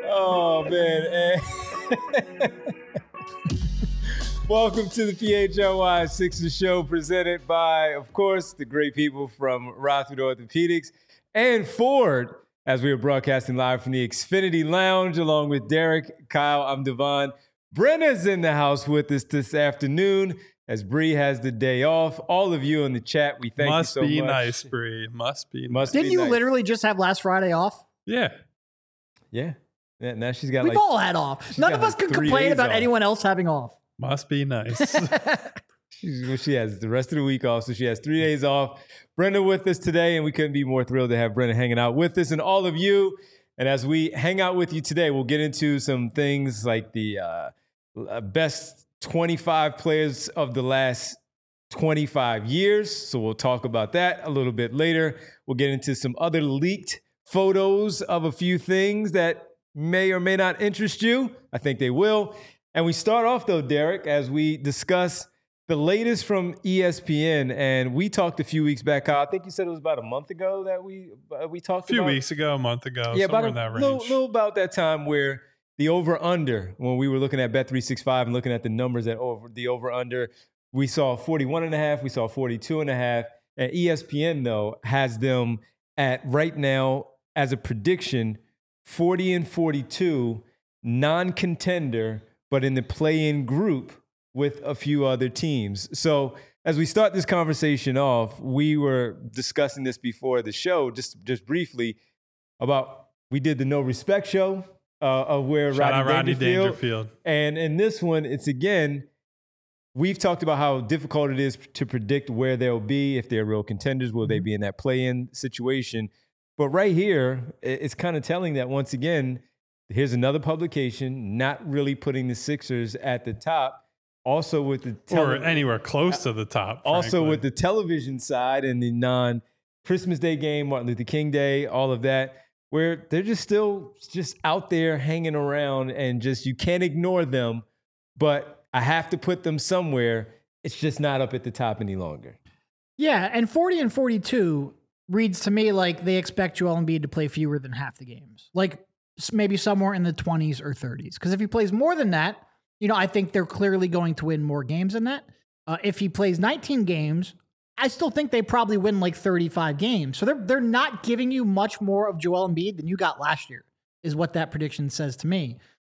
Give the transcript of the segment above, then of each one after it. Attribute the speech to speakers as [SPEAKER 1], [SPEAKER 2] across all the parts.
[SPEAKER 1] Oh, man. Welcome to the PHLY Sixers Show, presented by, of course, the great people from Rothfield Orthopedics and Ford, as we are broadcasting live from the Xfinity Lounge, along with Derek, Kyle, I'm Devon. Brenna's in the house with us this afternoon, as Bree has the day off. All of you in the chat, we thank you so much.
[SPEAKER 2] Must be nice, Bree. Must be nice.
[SPEAKER 3] Didn't you literally just have last Friday off?
[SPEAKER 2] Yeah.
[SPEAKER 1] Yeah. Now she's got
[SPEAKER 3] We've all had off. None of us can complain about anyone else having off.
[SPEAKER 2] Must be nice.
[SPEAKER 1] She has the rest of the week off, so she has 3 days off. Brenda with us today, and we couldn't be more thrilled to have Brenda hanging out with us and all of you. And as we hang out with you today, we'll get into some things like the best 25 players of the last 25 years. So we'll talk about that a little bit later. We'll get into some other leaked photos of a few things that may or may not interest you. I think they will. And we start off, though, Derek, as we discuss the latest from ESPN. And we talked a few weeks back, Kyle. I think you said it was about a month ago that we talked about.
[SPEAKER 2] A few weeks ago, a month ago,
[SPEAKER 1] yeah,
[SPEAKER 2] somewhere in that range.
[SPEAKER 1] Little about that time where the over-under, when we were looking at Bet365 and looking at the numbers the over-under, we saw 41.5, we saw 42.5. And ESPN, though, has them at right now as a prediction, 40 and 42, non-contender, but in the play-in group with a few other teams. So as we start this conversation off, we were discussing this before the show, just briefly, about we did the No Respect show of where Rodney Dangerfield. And in this one, it's again, we've talked about how difficult it is to predict where they'll be, if they're real contenders, will they be in that play-in situation? But right here, it's kind of telling that once again, here's another publication not really putting the Sixers at the top. Also with the
[SPEAKER 2] or anywhere close to the top.
[SPEAKER 1] Also
[SPEAKER 2] frankly.
[SPEAKER 1] with the television side and the non-Christmas Day game, Martin Luther King Day, all of that, where they're just out there hanging around and just you can't ignore them. But I have to put them somewhere. It's just not up at the top any longer.
[SPEAKER 3] Yeah, and 40 and 42 reads to me like they expect Joel Embiid to play fewer than half the games. Like maybe somewhere in the 20s or 30s. Because if he plays more than that, I think they're clearly going to win more games than that. If he plays 19 games, I still think they probably win like 35 games. So they're not giving you much more of Joel Embiid than you got last year, is what that prediction says to me.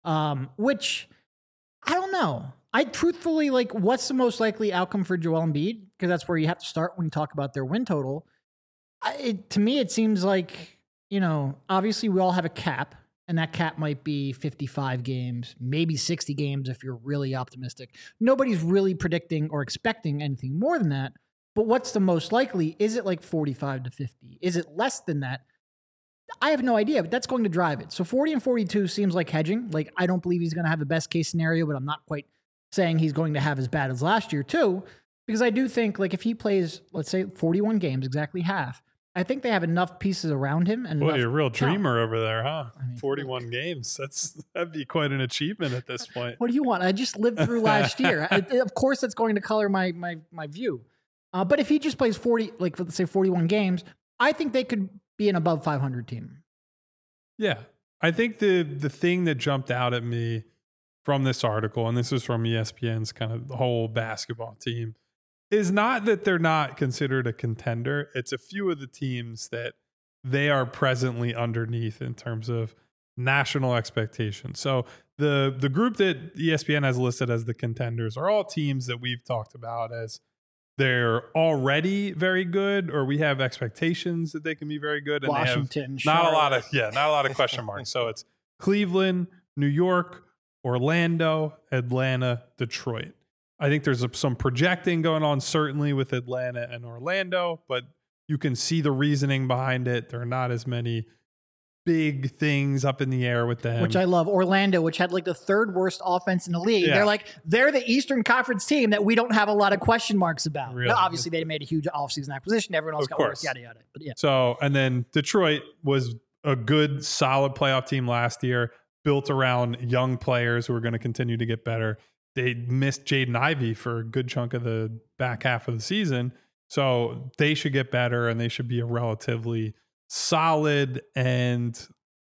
[SPEAKER 3] Which, I don't know. I truthfully, what's the most likely outcome for Joel Embiid? Because that's where you have to start when you talk about their win total. To me, it seems like, obviously we all have a cap, and that cap might be 55 games, maybe 60 games if you're really optimistic. Nobody's really predicting or expecting anything more than that. But what's the most likely? Is it like 45 to 50? Is it less than that? I have no idea, but that's going to drive it. So 40 and 42 seems like hedging. Like, I don't believe he's going to have the best case scenario, but I'm not quite saying he's going to have as bad as last year too, because I do think if he plays, let's say 41 games, exactly half, I think they have enough pieces around him. And
[SPEAKER 2] boy, you're a real dreamer over there, huh?
[SPEAKER 3] I mean,
[SPEAKER 2] 41 games. That'd be quite an achievement at this point.
[SPEAKER 3] What do you want? I just lived through last year. Of course, that's going to color my view. But if he just plays 40, let's say 41 games, I think they could be an above 500 team.
[SPEAKER 2] Yeah. I think the thing that jumped out at me from this article, and this is from ESPN's kind of the whole basketball team, is not that they're not considered a contender. It's a few of the teams that they are presently underneath in terms of national expectations. So the group that ESPN has listed as the contenders are all teams that we've talked about as they're already very good, or we have expectations that they can be very good. And
[SPEAKER 3] Washington,
[SPEAKER 2] they have not a lot of question marks. So it's Cleveland, New York, Orlando, Atlanta, Detroit. I think there's some projecting going on, certainly with Atlanta and Orlando, but you can see the reasoning behind it. There are not as many big things up in the air with them.
[SPEAKER 3] Which I love. Orlando, which had the third worst offense in the league. Yeah. They're the Eastern Conference team that we don't have a lot of question marks about. Really? Now, obviously, they made a huge offseason acquisition. Everyone else got worse, yada, yada. But yeah.
[SPEAKER 2] So, and then Detroit was a good, solid playoff team last year, built around young players who are going to continue to get better. They missed Jaden Ivey for a good chunk of the back half of the season. So they should get better, and they should be a relatively solid and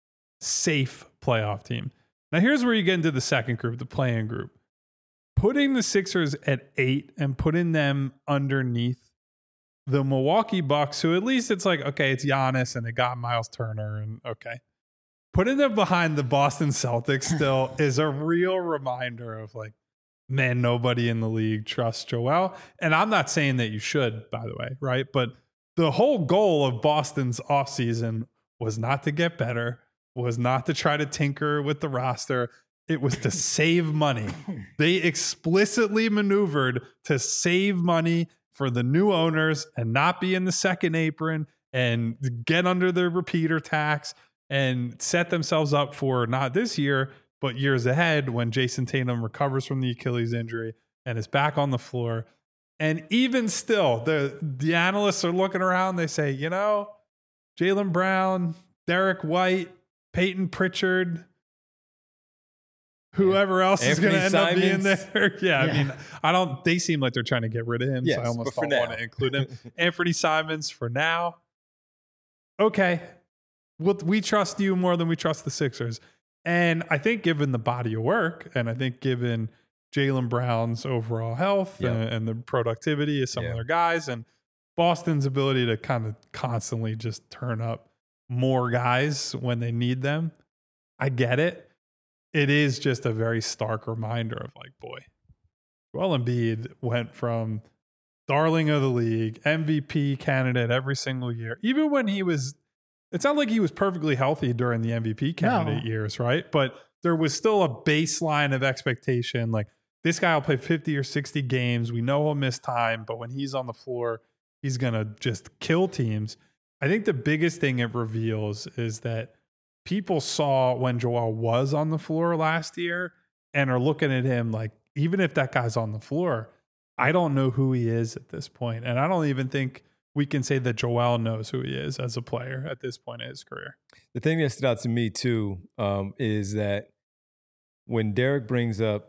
[SPEAKER 2] safe playoff team. Now, here's where you get into the second group, the play-in group. Putting the Sixers at 8 and putting them underneath the Milwaukee Bucks, who at least it's like, okay, it's Giannis and they got Miles Turner, and okay. Putting them behind the Boston Celtics still is a real reminder of like, man, nobody in the league trusts Joel. And I'm not saying that you should, by the way, right? But the whole goal of Boston's offseason was not to get better, was not to try to tinker with the roster. It was to save money. They explicitly maneuvered to save money for the new owners and not be in the second apron and get under the repeater tax and set themselves up for not this year, but years ahead when Jason Tatum recovers from the Achilles injury and is back on the floor. And even still, the analysts are looking around. They say, you know, Jaylen Brown, Derek White, Peyton Pritchard, whoever else is going to end up being there. I mean, they seem like they're trying to get rid of him. Yes, so I almost don't want to include him. Anthony Simons for now. Okay. We trust you more than we trust the Sixers. And I think given the body of work, and I think given Jaylen Brown's overall health and the productivity of some of their guys, and Boston's ability to kind of constantly just turn up more guys when they need them, I get it. It is just a very stark reminder of like, boy, Joel Embiid went from darling of the league, MVP candidate every single year, even when he was. It's not like he was perfectly healthy during the MVP candidate years, right? But there was still a baseline of expectation. Like, this guy will play 50 or 60 games. We know he'll miss time, but when he's on the floor, he's going to just kill teams. I think the biggest thing it reveals is that people saw when Joel was on the floor last year and are looking at him like, even if that guy's on the floor, I don't know who he is at this point. And I don't even think we can say that Joel knows who he is as a player at this point in his career.
[SPEAKER 1] The thing that stood out to me, too, is that when Derek brings up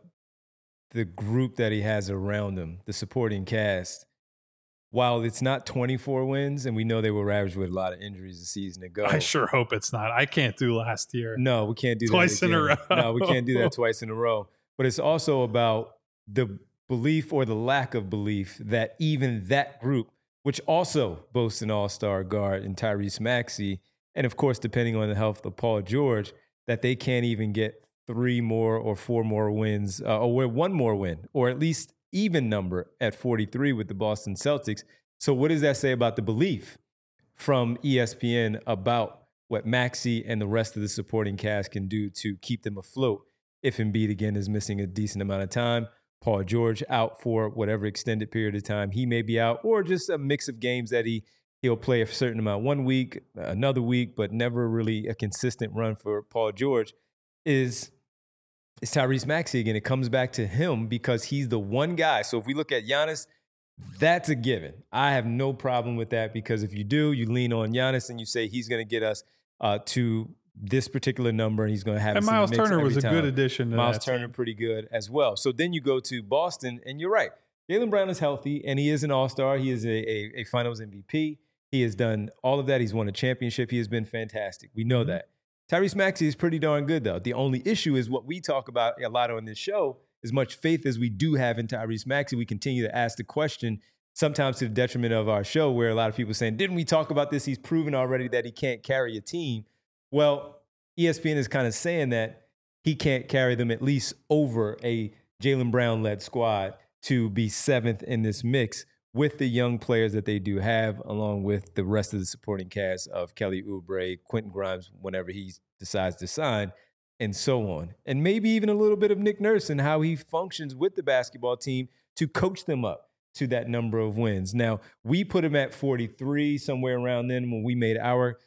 [SPEAKER 1] the group that he has around him, the supporting cast, while it's not 24 wins, and we know they were ravaged with a lot of injuries a season ago.
[SPEAKER 2] I sure hope it's not. I can't do last year.
[SPEAKER 1] No, we can't do
[SPEAKER 2] twice
[SPEAKER 1] that
[SPEAKER 2] in a row.
[SPEAKER 1] No, we can't do that twice in a row. But it's also about the belief or the lack of belief that even that group, which also boasts an all-star guard in Tyrese Maxey, and of course, depending on the health of Paul George, that they can't even get 3 more or 4 more wins, or 1 more win, or at least even number at 43 with the Boston Celtics. So what does that say about the belief from ESPN about what Maxey and the rest of the supporting cast can do to keep them afloat if Embiid, again, is missing a decent amount of time? Paul George out for whatever extended period of time he may be out, or just a mix of games that he'll play a certain amount one week, another week, but never really a consistent run for Paul George, is Tyrese Maxey again. It comes back to him because he's the one guy. So if we look at Giannis, that's a given. I have no problem with that, because if you do, you lean on Giannis and you say he's going to get us to this particular number, and he's going to have.
[SPEAKER 2] And Miles Turner was a good addition to
[SPEAKER 1] Miles Turner, pretty good as well. So then you go to Boston, and you're right. Jaylen Brown is healthy, and he is an all-star. He is a Finals MVP. He has done all of that. He's won a championship. He has been fantastic. We know that. Tyrese Maxey is pretty darn good, though. The only issue is what we talk about a lot on this show. As much faith as we do have in Tyrese Maxey, we continue to ask the question, sometimes to the detriment of our show, where a lot of people are saying, didn't we talk about this? He's proven already that he can't carry a team. Well, ESPN is kind of saying that he can't carry them at least over a Jaylen Brown-led squad to be 7th in this mix with the young players that they do have, along with the rest of the supporting cast of Kelly Oubre, Quentin Grimes, whenever he decides to sign, and so on. And maybe even a little bit of Nick Nurse and how he functions with the basketball team to coach them up to that number of wins. Now, we put him at 43, somewhere around then, when we made our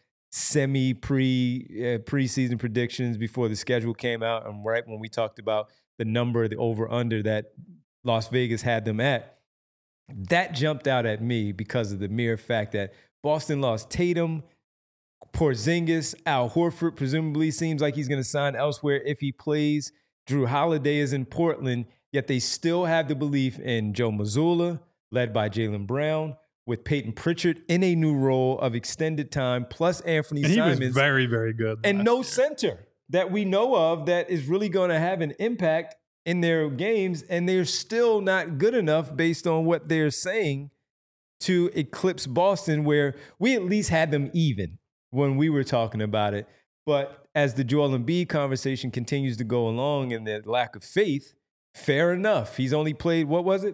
[SPEAKER 1] preseason predictions before the schedule came out, and right when we talked about the number, the over-under that Las Vegas had them at. That jumped out at me because of the mere fact that Boston lost Tatum, Porzingis, Al Horford presumably seems like he's going to sign elsewhere if he plays. Drew Holiday is in Portland, yet they still have the belief in Joe Mazzulla, led by Jaylen Brown, with Peyton Pritchard in a new role of extended time, plus Anthony
[SPEAKER 2] And he
[SPEAKER 1] Simons.
[SPEAKER 2] was very, very good.
[SPEAKER 1] And
[SPEAKER 2] last
[SPEAKER 1] no
[SPEAKER 2] year.
[SPEAKER 1] center that we know of that is really going to have an impact in their games. And they're still not good enough based on what they're saying to eclipse Boston, where we at least had them even when we were talking about it. But as the Joel Embiid conversation continues to go along and the lack of faith, fair enough. He's only played,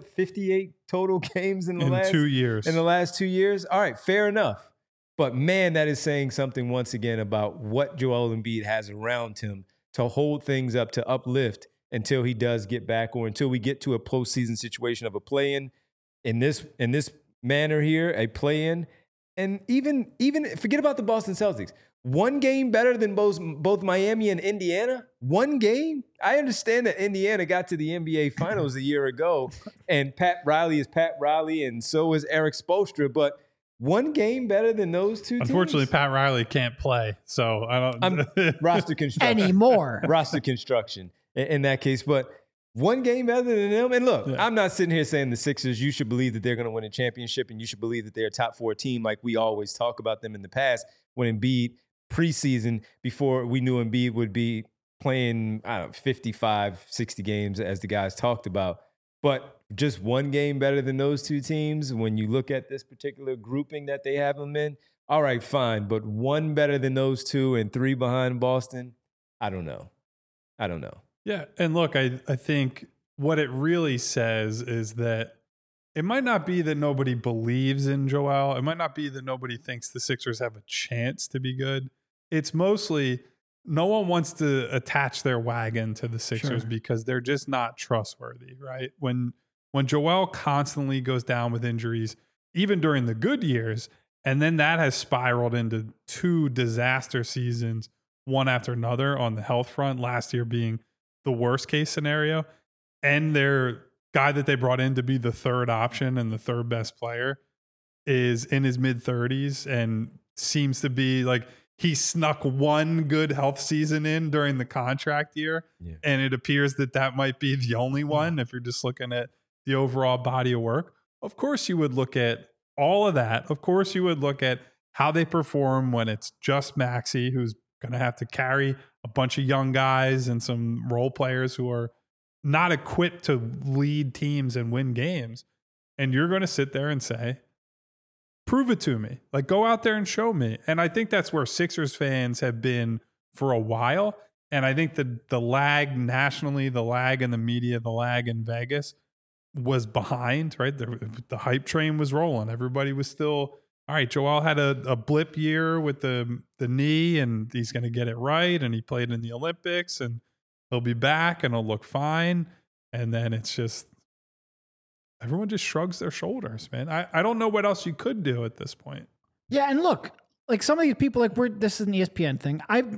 [SPEAKER 1] 58 total games in the last
[SPEAKER 2] 2 years.
[SPEAKER 1] In the last 2 years? All right, fair enough. But man, that is saying something once again about what Joel Embiid has around him to hold things up, to uplift until he does get back, or until we get to a postseason situation of a play-in in this manner here, a play-in. And even forget about the Boston Celtics. One game better than both Miami and Indiana? One game? I understand that Indiana got to the NBA Finals a year ago, and Pat Riley is Pat Riley, and so is Eric Spoelstra, but one game better than those two teams?
[SPEAKER 2] Unfortunately, Pat Riley can't play, so I don't...
[SPEAKER 1] roster construction.
[SPEAKER 3] Anymore.
[SPEAKER 1] Roster construction in that case, but one game better than them. And look,
[SPEAKER 2] Yeah.
[SPEAKER 1] I'm not sitting here saying the Sixers, you should believe that they're going to win a championship, and you should believe that they're a top 4 team like we always talk about them in the past, when Embiid preseason, before we knew Embiid would be playing, 55, 60 games as the guys talked about. But just one game better than those two teams when you look at this particular grouping that they have them in. All right, fine. But one better than those two and 3 behind Boston? I don't know.
[SPEAKER 2] Yeah, and look, I think what it really says is that it might not be that nobody believes in Joel. It might not be that nobody thinks the Sixers have a chance to be good. It's mostly no one wants to attach their wagon to the Sixers because they're just not trustworthy, right? When Joel constantly goes down with injuries, even during the good years, and then that has spiraled into 2 disaster seasons, one after another on the health front, last year being the worst case scenario, and their guy that they brought in to be the 3rd option and the 3rd best player is in his mid-30s and seems to be like he snuck one good health season in during the contract year. Yeah. And it appears that might be the only one if you're just looking at the overall body of work. Of course, you would look at all of that. Of course, you would look at how they perform when it's just Maxey, who's going to have to carry a bunch of young guys and some role players who are not equipped to lead teams and win games. And you're going to sit there and say, prove it to me. Like, go out there and show me. And I think that's where Sixers fans have been for a while. And I think the lag nationally, the lag in the media, the lag in Vegas was behind, right? The hype train was rolling. Everybody was still, all right, Joel had a blip year with the knee, and he's going to get it right. And he played in the Olympics, and he'll be back, and he'll look fine. And then it's just, everyone just shrugs their shoulders, man. I don't know what else you could do at this point.
[SPEAKER 3] Yeah, and look, like some of these people, like this is an ESPN thing.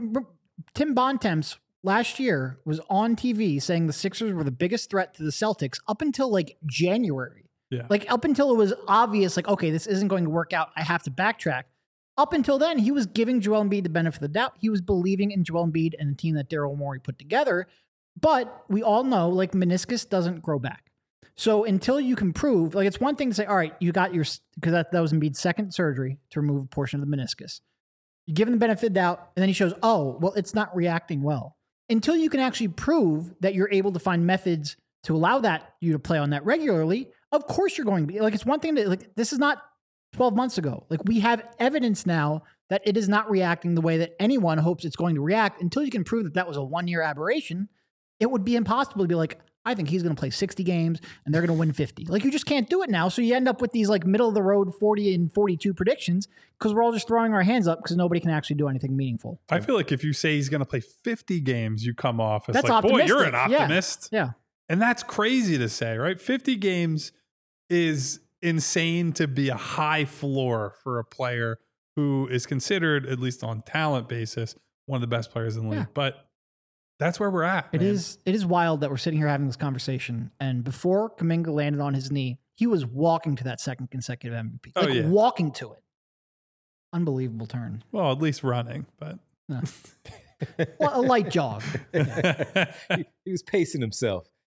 [SPEAKER 3] Tim Bontemps last year was on TV saying the Sixers were the biggest threat to the Celtics up until like January.
[SPEAKER 2] Yeah.
[SPEAKER 3] Like up until it was obvious, like, okay, this isn't going to work out. I have to backtrack. Up until then, he was giving Joel Embiid the benefit of the doubt. He was believing in Joel Embiid and the team that Daryl Morey put together. But we all know, like, meniscus doesn't grow back. So until you can prove, like, it's one thing to say, all right, you got your, because that was Embiid's second surgery to remove a portion of the meniscus. You give him the benefit of the doubt, and then he shows, oh, well, it's not reacting well. Until you can actually prove that you're able to find methods to allow you to play on that regularly, of course you're going to be. Like, it's one thing to, like, this is not 12 months ago. Like, we have evidence now that it is not reacting the way that anyone hopes it's going to react. Until you can prove that was a one-year aberration, it would be impossible to be like, I think he's going to play 60 games and they're going to win 50. Like, you just can't do it now. So you end up with these like middle of the road 40 and 42 predictions because we're all just throwing our hands up because nobody can actually do anything meaningful.
[SPEAKER 2] I feel like if you say he's going to play 50 games, you come off as
[SPEAKER 3] that's
[SPEAKER 2] like, boy,
[SPEAKER 3] optimistic.
[SPEAKER 2] you're an optimist.
[SPEAKER 3] Yeah.
[SPEAKER 2] And that's crazy to say, right? 50 games is insane to be a high floor for a player who is considered, at least on talent basis, one of the best players in the league.
[SPEAKER 3] Yeah.
[SPEAKER 2] But that's where we're at.
[SPEAKER 3] It is wild that we're sitting here having this conversation. And before Kuminga landed on his knee, he was walking to that second consecutive MVP. Walking to it. Unbelievable turn.
[SPEAKER 2] Well, at least running, but
[SPEAKER 3] no. Well, a light jog.
[SPEAKER 1] He was pacing himself.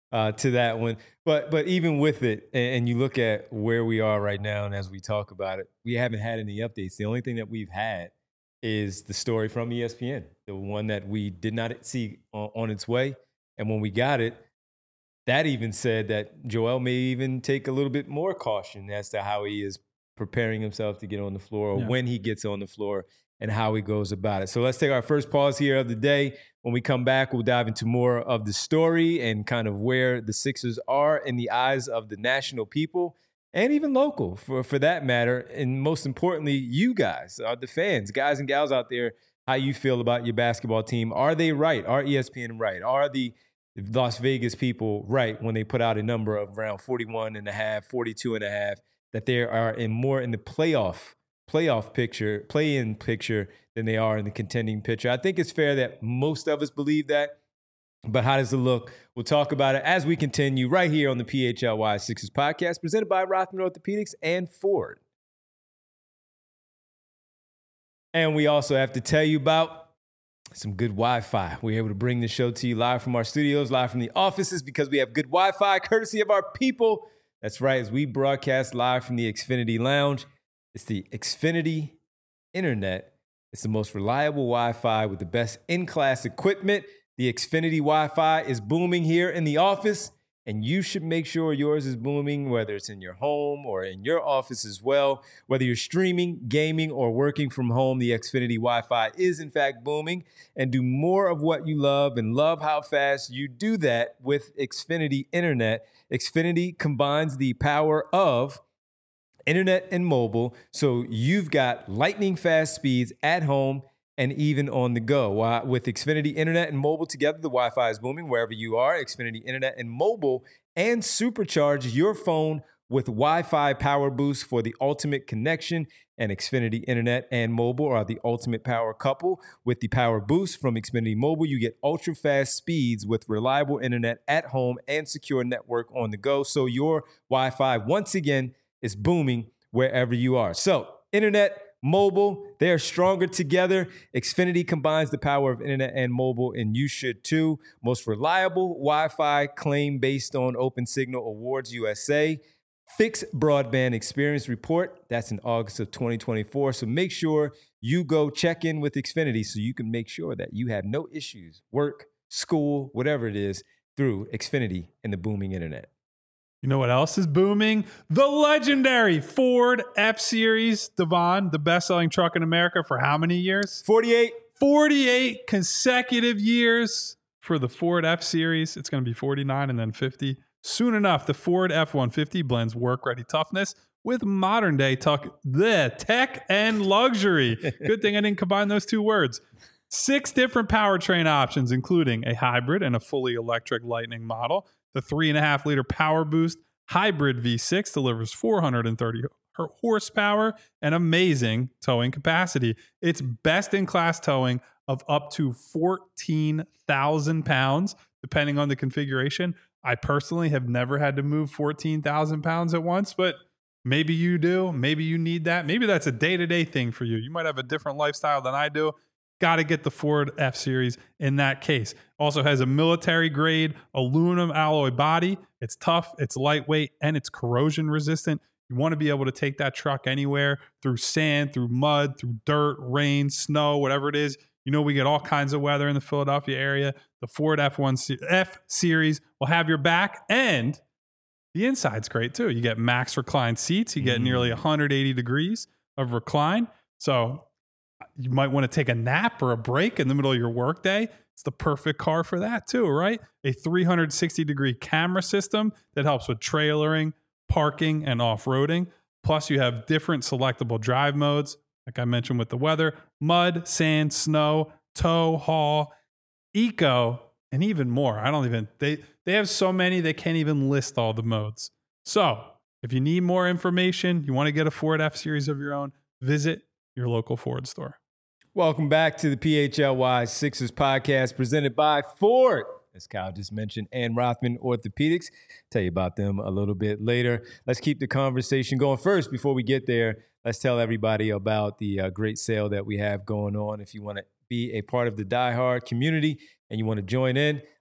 [SPEAKER 1] to that one. But even with it, and you look at where we are right now, and as we talk about it, we haven't had any updates. The only thing that we've had is the story from ESPN, the one that we did not see on its way. And when we got it, that even said that Joel may even take a little bit more caution as to how he is preparing himself to get on the floor, or when he gets on the floor, and how he goes about it. So let's take our first pause here of the day. When we come back, we'll dive into more of the story and kind of where the Sixers are in the eyes of the national people and even local for that matter. And most importantly, you guys, the fans, guys and gals out there, how you feel about your basketball team. Are they right? Are ESPN right? Are the Las Vegas people right when they put out a number of around 41.5, 42.5, that they are more in the playoff picture, play-in picture than they are in the contending picture? I think it's fair that most of us believe that, but how does it look? We'll talk about it as we continue right here on the PHLY Sixers podcast, presented by Rothman Orthopedics and Ford. And we also have to tell you about some good Wi-Fi. We're able to bring the show to you live from our studios, live from the offices, because we have good Wi-Fi, courtesy of our people. That's right, as we broadcast live from the Xfinity Lounge. It's the Xfinity Internet. It's the most reliable Wi-Fi with the best in-class equipment. The Xfinity Wi-Fi is booming here in the office, and you should make sure yours is booming, whether it's in your home or in your office as well. Whether you're streaming, gaming, or working from home, the Xfinity Wi-Fi is in fact booming. And do more of what you love and love how fast you do that with Xfinity Internet. Xfinity combines the power of internet and mobile, so you've got lightning fast speeds at home and even on the go. With Xfinity Internet and mobile together, the Wi-Fi is booming wherever you are. Xfinity Internet and mobile, and supercharge your phone with Wi-Fi Power Boost for the ultimate connection. And Xfinity Internet and mobile are the ultimate power couple. With the Power Boost from Xfinity Mobile, you get ultra-fast speeds with reliable internet at home and secure network on the go. So your Wi-Fi, once again, is booming wherever you are. So internet, mobile, they are stronger together. Xfinity combines the power of internet and mobile, and you should too. Most reliable Wi-Fi claim based on OpenSignal Awards USA. Fixed Broadband Experience Report. That's in August of 2024. So make sure you go check in with Xfinity so you can make sure that you have no issues, work, school, whatever it is, through Xfinity and the booming internet.
[SPEAKER 2] You know what else is booming? The legendary Ford F-Series. Devon, the best-selling truck in America for how many years?
[SPEAKER 1] 48.
[SPEAKER 2] 48 consecutive years for the Ford F-Series. It's going to be 49 and then 50. Soon enough, the Ford F-150 blends work-ready toughness with modern-day tech and luxury. Good thing I didn't combine those two words. 6 different powertrain options, including a hybrid and a fully electric Lightning model. The 3.5-liter Power Boost hybrid V6 delivers 430 horsepower and amazing towing capacity. It's best-in-class towing of up to 14,000 pounds, depending on the configuration. I personally have never had to move 14,000 pounds at once, but maybe you do. Maybe you need that. Maybe that's a day-to-day thing for you. You might have a different lifestyle than I do. Got to get the Ford F-Series in that case. Also has a military-grade aluminum alloy body. It's tough, it's lightweight, and it's corrosion resistant. You want to be able to take that truck anywhere through sand, through mud, through dirt, rain, snow, whatever it is. You know, we get all kinds of weather in the Philadelphia area. The Ford F-Series will have your back, and the inside's great too. You get max recline seats. You get nearly 180 degrees of recline. So you might want to take a nap or a break in the middle of your workday. It's the perfect car for that too, right? A 360-degree camera system that helps with trailering, parking, and off-roading. Plus, you have different selectable drive modes, like I mentioned with the weather: mud, sand, snow, tow, haul, eco, and even more. They have so many they can't even list all the modes. So if you need more information, you want to get a Ford F-Series of your own, visit your local Ford store.
[SPEAKER 1] Welcome back to the PHLY Sixers podcast presented by Ford, as Kyle just mentioned, and Rothman Orthopedics. Tell you about them a little bit later. Let's keep the conversation going. First, before we get there, let's tell everybody about the great sale that we have going on. If you want to be a part of the Die Hard community and you want to join in,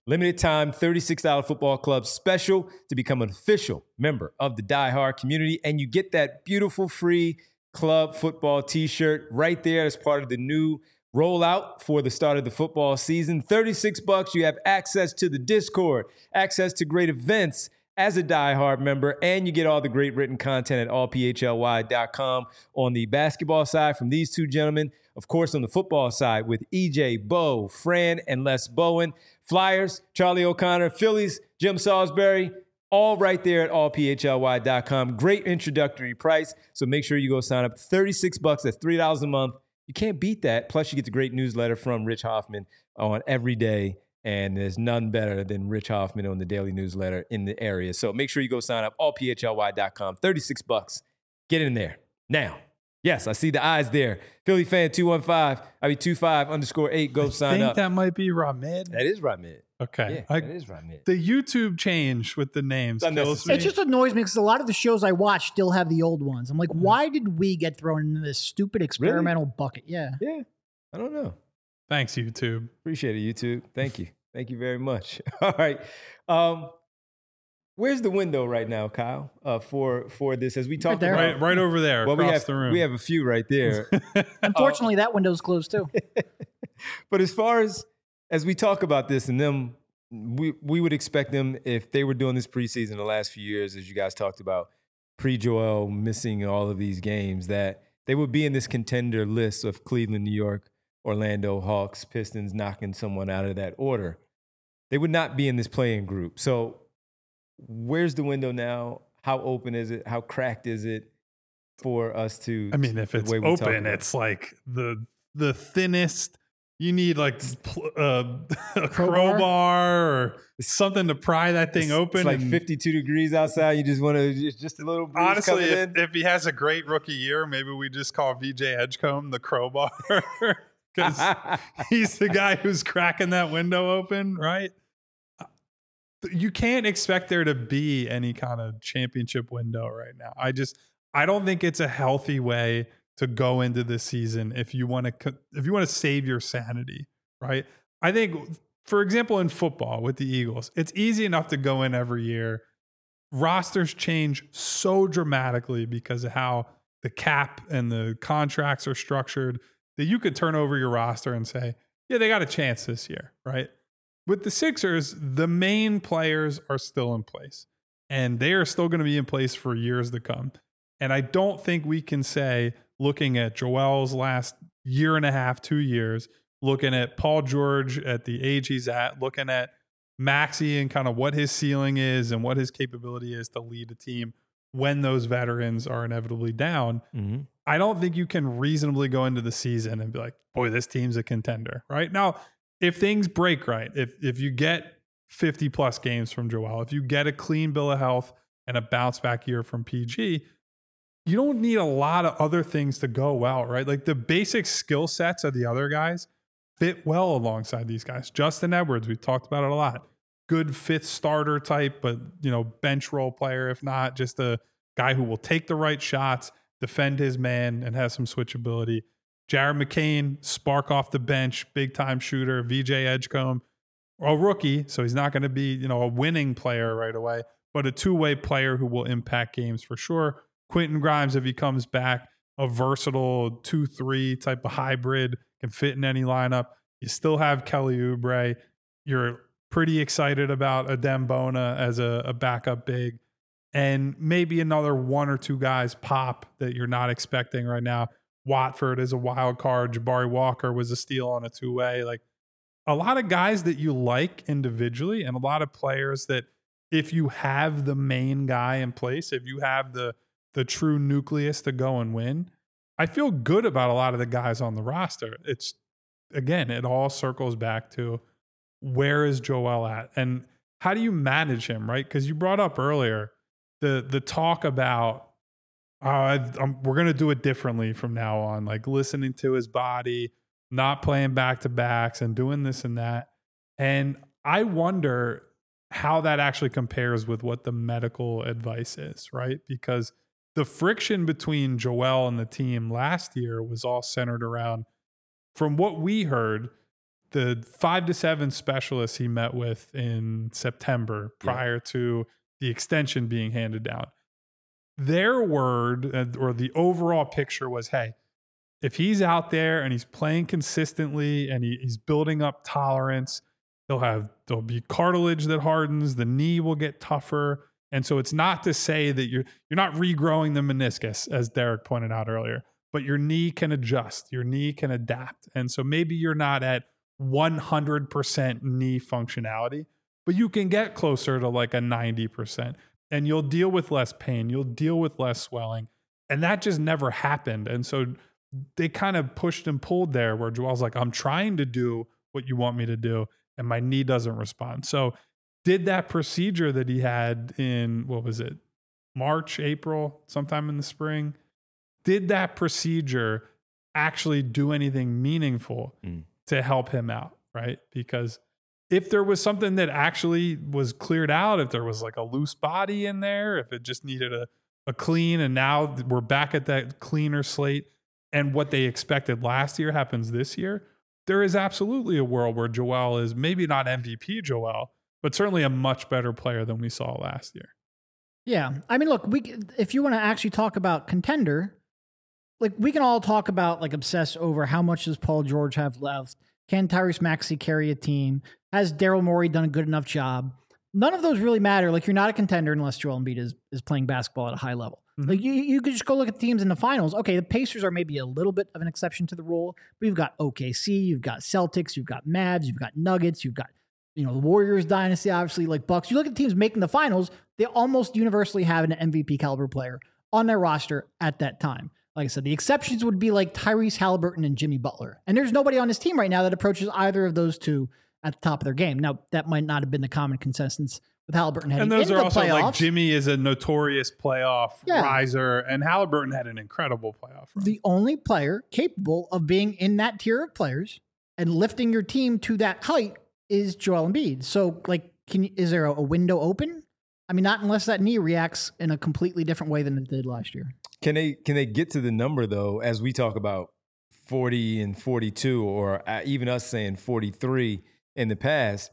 [SPEAKER 1] Limited time $36 football club special to become an official member of the Die Hard community. And you get that beautiful free club football t-shirt right there as part of the new rollout for the start of the football season. $36. You have access to the Discord, access to great events as a Die Hard member, and you get all the great written content at allphly.com on the basketball side from these two gentlemen. Of course, on the football side with EJ, Bo, Fran, and Les Bowen. Flyers, Charlie O'Connor, Phillies, Jim Salisbury, all right there at allphly.com. Great introductory price, so make sure you go sign up. $36, that's $3 a month. You can't beat that. Plus, you get the great newsletter from Rich Hoffman on every day, and there's none better than Rich Hoffman on the daily newsletter in the area. So make sure you go sign up, allphly.com. $36. Get in there. Now, yes, I see the eyes there. Philly fan 25_8. Go sign up.
[SPEAKER 2] I think that might be Ramid.
[SPEAKER 1] That is Ramid.
[SPEAKER 2] Okay.
[SPEAKER 1] Yeah, that is Ramid.
[SPEAKER 2] The YouTube change with the names kills me.
[SPEAKER 3] It just annoys me because a lot of the shows I watch still have the old ones. I'm like, why did we get thrown into this stupid experimental bucket? Yeah.
[SPEAKER 1] Yeah. I don't know.
[SPEAKER 2] Thanks, YouTube.
[SPEAKER 1] Appreciate it, YouTube. Thank you. Thank you very much. All right. Where's the window right now, Kyle, for this? As we talked about,
[SPEAKER 2] right over there,
[SPEAKER 1] well,
[SPEAKER 2] across the room.
[SPEAKER 1] We have a few right there.
[SPEAKER 3] Unfortunately, that window's closed too.
[SPEAKER 1] But as far as we talk about this, and them, we would expect them, if they were doing this preseason the last few years, as you guys talked about, pre-Joel missing all of these games, that they would be in this contender list of Cleveland, New York, Orlando, Hawks, Pistons knocking someone out of that order. They would not be in this playing group. So where's the window now? How open is it? How cracked is it for us to?
[SPEAKER 2] I mean, if it's open, it's like the thinnest. You need like a crowbar or something to pry that thing open.
[SPEAKER 1] It's like 52 degrees outside. You just want to just a little breeze.
[SPEAKER 2] Honestly, if he has a great rookie year, maybe we just call VJ Edgecombe the crowbar because he's the guy who's cracking that window open, right? You can't expect there to be any kind of championship window right now. I don't think it's a healthy way to go into this season if you want to save your sanity, right? I think, for example, in football with the Eagles, it's easy enough to go in every year. Rosters change so dramatically because of how the cap and the contracts are structured that you could turn over your roster and say, yeah, they got a chance this year, right? With the Sixers, the main players are still in place, and they are still going to be in place for years to come. And I don't think we can say, looking at Joel's last year and a half, 2 years, looking at Paul George at the age he's at, looking at Maxey and kind of what his ceiling is and what his capability is to lead a team when those veterans are inevitably down. Mm-hmm. I don't think you can reasonably go into the season and be like, boy, this team's a contender, right? Now, if things break right, if you get 50 plus games from Joel, if you get a clean bill of health and a bounce back year from PG, you don't need a lot of other things to go well, right? Like the basic skill sets of the other guys fit well alongside these guys. Justin Edwards, we've talked about it a lot. Good fifth starter type, but bench role player, if not, just a guy who will take the right shots, defend his man, and has some switchability. Jared McCain, spark off the bench, big time shooter. VJ Edgecombe, a rookie, so he's not going to be a winning player right away, but a two-way player who will impact games for sure. Quentin Grimes, if he comes back, a versatile 2-3 type of hybrid, can fit in any lineup. You still have Kelly Oubre. You're pretty excited about Adem Bona as a backup big. And maybe another one or two guys pop that you're not expecting right now. Watford is a wild card. Jabari Walker was a steal on a two-way. Like a lot of guys that you like individually, and a lot of players that if you have the main guy in place, if you have the true nucleus to go and win, I feel good about a lot of the guys on the roster. It's, again, it all circles back to where is Joel at and how do you manage him, right? Because you brought up earlier the talk about we're going to do it differently from now on, like listening to his body, not playing back-to-backs and doing this and that. And I wonder how that actually compares with what the medical advice is, right? Because the friction between Joel and the team last year was all centered around, from what we heard, the 5 to 7 specialists he met with in September prior to the extension being handed down, their word or the overall picture was, hey, if he's out there and he's playing consistently and he's building up tolerance, there'll be cartilage that hardens, the knee will get tougher. And so it's not to say that you're not regrowing the meniscus, as Derek pointed out earlier, but your knee can adjust, your knee can adapt. And so maybe you're not at 100% knee functionality, but you can get closer to like a 90%, and you'll deal with less pain, you'll deal with less swelling. And that just never happened. And so they kind of pushed and pulled there where Joel's like, I'm trying to do what you want me to do, and my knee doesn't respond. So did that procedure that he had in, what was it, March, April, sometime in the spring, did that procedure actually do anything meaningful to help him out, right? Because if there was something that actually was cleared out, if there was like a loose body in there, if it just needed a clean, and now we're back at that cleaner slate, and what they expected last year happens this year, there is absolutely a world where Joel is maybe not MVP Joel, but certainly a much better player than we saw last year.
[SPEAKER 3] Yeah. I mean, look, if you want to actually talk about contender, like we can all talk about, like, obsess over how much does Paul George have left? Can Tyrese Maxey carry a team? Has Daryl Morey done a good enough job? None of those really matter. Like, you're not a contender unless Joel Embiid is playing basketball at a high level. Mm-hmm. Like you could just go look at teams in the finals. Okay, the Pacers are maybe a little bit of an exception to the rule, but you've got OKC, you've got Celtics, you've got Mavs, you've got Nuggets, you've got, the Warriors dynasty, obviously, like Bucks. You look at teams making the finals, they almost universally have an MVP caliber player on their roster at that time. Like I said, the exceptions would be like Tyrese Halliburton and Jimmy Butler. And there's nobody on this team right now that approaches either of those two at the top of their game. Now, that might not have been the common consensus with Halliburton heading into the playoffs.
[SPEAKER 2] And those are also like Jimmy is a notorious playoff riser, and Halliburton had an incredible playoff run.
[SPEAKER 3] The only player capable of being in that tier of players and lifting your team to that height is Joel Embiid. So, like, is there a window open? I mean, not unless that knee reacts in a completely different way than it did last year.
[SPEAKER 1] Can they get to the number, though, as we talk about 40 and 42, or even us saying 43 in the past?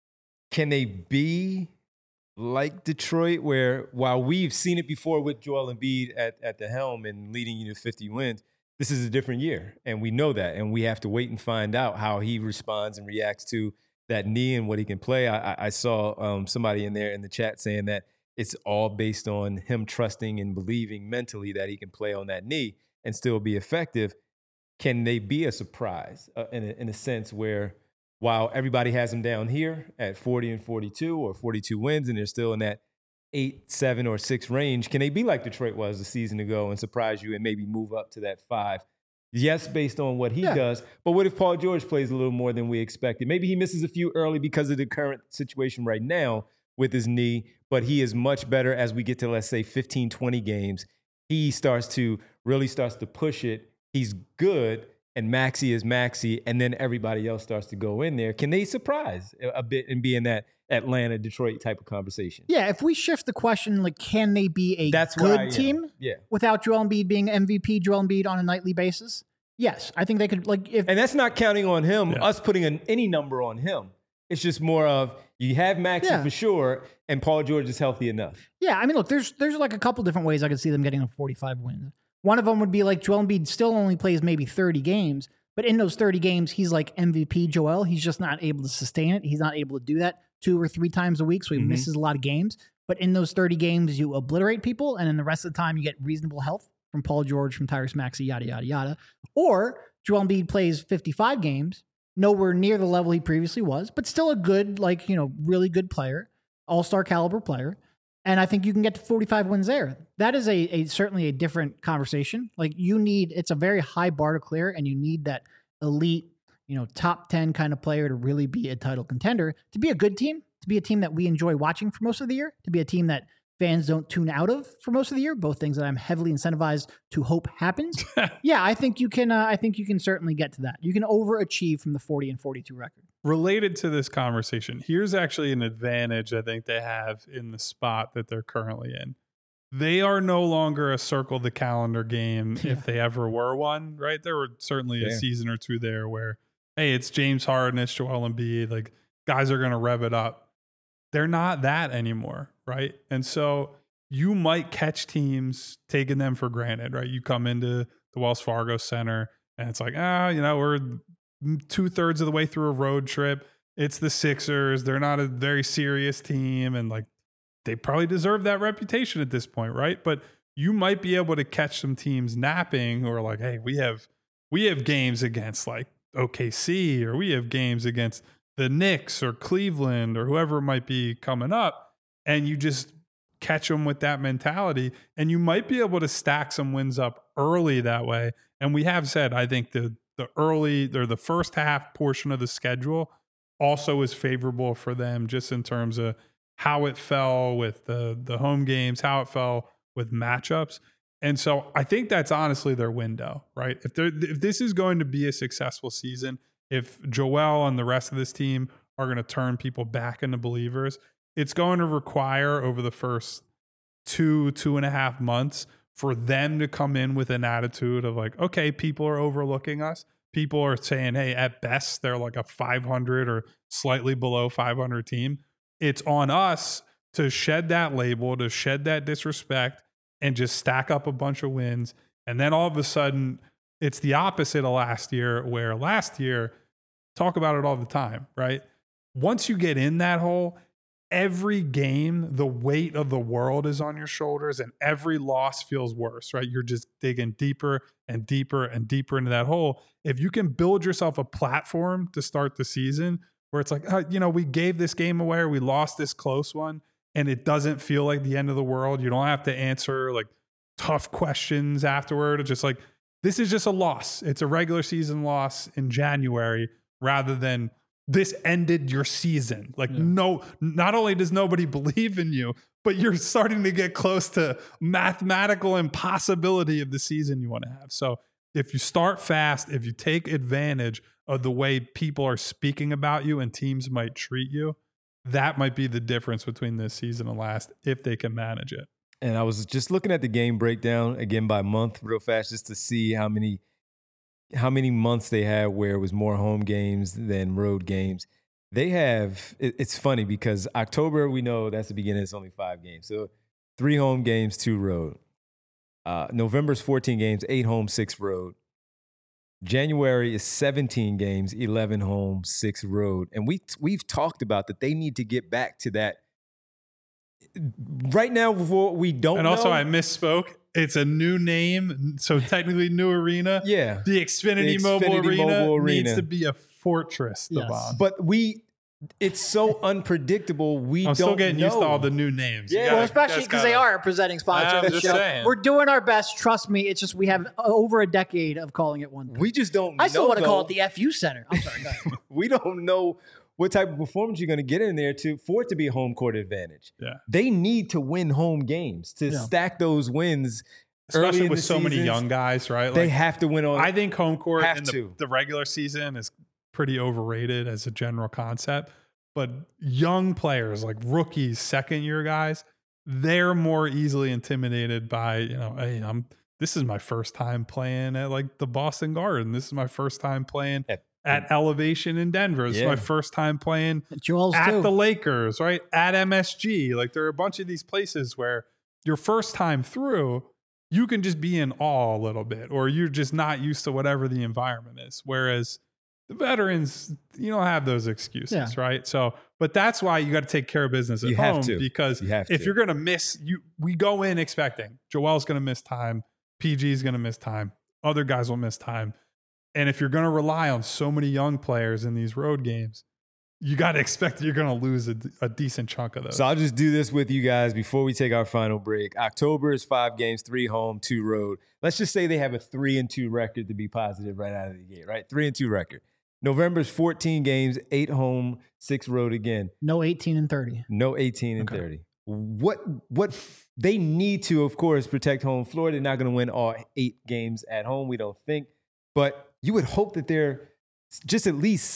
[SPEAKER 1] Can they be like Detroit, where while we've seen it before with Joel Embiid at the helm and leading you to 50 wins, this is a different year, and we know that, and we have to wait and find out how he responds and reacts to that knee and what he can play. I saw somebody in there in the chat saying that it's all based on him trusting and believing mentally that he can play on that knee and still be effective. Can they be a surprise in a sense where, while everybody has him down here at 40 and 42 or 42 wins, and they're still in that 8, 7, or 6 range, can they be like Detroit was a season ago and surprise you and maybe move up to that 5? Yes, based on what he does. But what if Paul George plays a little more than we expected? Maybe he misses a few early because of the current situation right now with his knee, but he is much better as we get to, let's say, 15, 20 games. He really starts to push it. He's good, and Maxey is Maxey, and then everybody else starts to go in there. Can they surprise a bit and be in that Atlanta-Detroit type of conversation?
[SPEAKER 3] Yeah, if we shift the question, like, can they be a good team without Joel Embiid being MVP Joel Embiid on a nightly basis? Yes, I think they could. And
[SPEAKER 1] that's not counting on him, us putting any number on him. It's just more of, you have Maxey for sure, and Paul George is healthy enough.
[SPEAKER 3] Yeah, I mean, look, there's like a couple different ways I could see them getting a 45 win. One of them would be like Joel Embiid still only plays maybe 30 games, but in those 30 games, he's like MVP Joel. He's just not able to sustain it. He's not able to do that 2 or 3 times a week, so he misses a lot of games. But in those 30 games, you obliterate people, and then the rest of the time, you get reasonable health from Paul George, from Tyrese Maxey, yada, yada, yada. Or Joel Embiid plays 55 games, nowhere near the level he previously was, but still a good, really good player, all-star caliber player. And I think you can get to 45 wins there. That is certainly a different conversation. Like, it's a very high bar to clear, and you need that elite, top 10 kind of player to really be a title contender, to be a good team, to be a team that we enjoy watching for most of the year, to be a team that fans don't tune out of for most of the year, both things that I'm heavily incentivized to hope happens. Yeah, I think you can certainly get to that. You can overachieve from the 40 and 42 record.
[SPEAKER 2] Related to this conversation, here's actually an advantage I think they have in the spot that they're currently in. They are no longer a circle the calendar game if they ever were one, right? There were certainly a season or two there where hey, it's James Harden, it's Joel Embiid, like guys are going to rev it up. They're not that anymore, right? And so you might catch teams taking them for granted, right? You come into the Wells Fargo Center and it's like, we're 2/3 of the way through a road trip. It's the Sixers. They're not a very serious team. And like, they probably deserve that reputation at this point, right? But you might be able to catch some teams napping or like, hey, we have games against like OKC, or we have games against the Knicks or Cleveland or whoever it might be coming up. And you just catch them with that mentality, and you might be able to stack some wins up early that way. And we have said, I think the early or the first half portion of the schedule also is favorable for them, just in terms of how it fell with the home games, how it fell with matchups. And so I think that's honestly their window, right? If this is going to be a successful season, if Joel and the rest of this team are going to turn people back into believers, it's going to require over the first 2.5 months for them to come in with an attitude of like, okay, people are overlooking us. People are saying, hey, at best, they're like a 500 or slightly below 500 team. It's on us to shed that label, to shed that disrespect, and just stack up a bunch of wins. And then all of a sudden, it's the opposite of last year, where last year, talk about it all the time, right? Once you get in that hole, every game, the weight of the world is on your shoulders, and every loss feels worse, right? You're just digging deeper and deeper and deeper into that hole. If you can build yourself a platform to start the season where it's like, we gave this game away, or we lost this close one, and it doesn't feel like the end of the world. You don't have to answer like tough questions afterward. It's just like, this is just a loss. It's a regular season loss in January, rather than this ended your season. Like, no, not only does nobody believe in you, but you're starting to get close to mathematical impossibility of the season you want to have. So if you start fast, if you take advantage of the way people are speaking about you and teams might treat you, that might be the difference between this season and last, if they can manage it.
[SPEAKER 1] And I was just looking at the game breakdown again by month real fast, just to see how many months they had where it was more home games than road games. They have, it's funny because October, we know that's the beginning, it's only 5 games. So 3 home games, 2 road. November's 14 games, 8 home, 6 road. January is 17 games, 11 home, 6 road. And we've talked about that they need to get back to that. Right now, we don't know.
[SPEAKER 2] And also, I misspoke. It's a new name, so technically new arena.
[SPEAKER 1] Yeah.
[SPEAKER 2] The Xfinity Mobile Arena needs to be a fortress, Devon.
[SPEAKER 1] But it's so unpredictable.
[SPEAKER 2] I'm still getting used to all the new names.
[SPEAKER 3] Yeah, especially because they are a presenting sponsor of the show.
[SPEAKER 2] Saying.
[SPEAKER 3] We're doing our best. Trust me. It's just we have over a decade of calling it one thing.
[SPEAKER 1] We just don't know.
[SPEAKER 3] I still want to call it the FU Center. I'm sorry. Go ahead.
[SPEAKER 1] We don't know what type of performance you're going to get in there for it to be a home court advantage.
[SPEAKER 2] Yeah.
[SPEAKER 1] They need to win home games to stack those wins.
[SPEAKER 2] Especially with so many young guys, right?
[SPEAKER 1] They have to win on.
[SPEAKER 2] I think home court in the regular season is pretty overrated as a general concept. But young players, like rookies, second-year guys, they're more easily intimidated by, hey, this is my first time playing at like the Boston Garden. This is my first time playing at Elevation in Denver. This is my first time playing at the Lakers, right? At MSG. Like, there are a bunch of these places where your first time through, you can just be in awe a little bit, or you're just not used to whatever the environment is. Whereas the veterans, you don't have those excuses, right? So, but that's why you got to take care of business at home, because if you're going to miss, we go in expecting Joel's going to miss time, PG's going to miss time, other guys will miss time. And if you're going to rely on so many young players in these road games, you got to expect you're going to lose a decent chunk of those.
[SPEAKER 1] So I'll just do this with you guys before we take our final break. October is 5 games, 3 home, 2 road. Let's just say they have a 3-2 record to be positive right out of the gate, right? 3-2 record. November's 14 games, 8 home, 6 road again.
[SPEAKER 3] No 18 and 30.
[SPEAKER 1] No 18 and 30. What they need to, of course, protect home floor. They're not going to win all 8 games at home, we don't think. But you would hope that they're just at least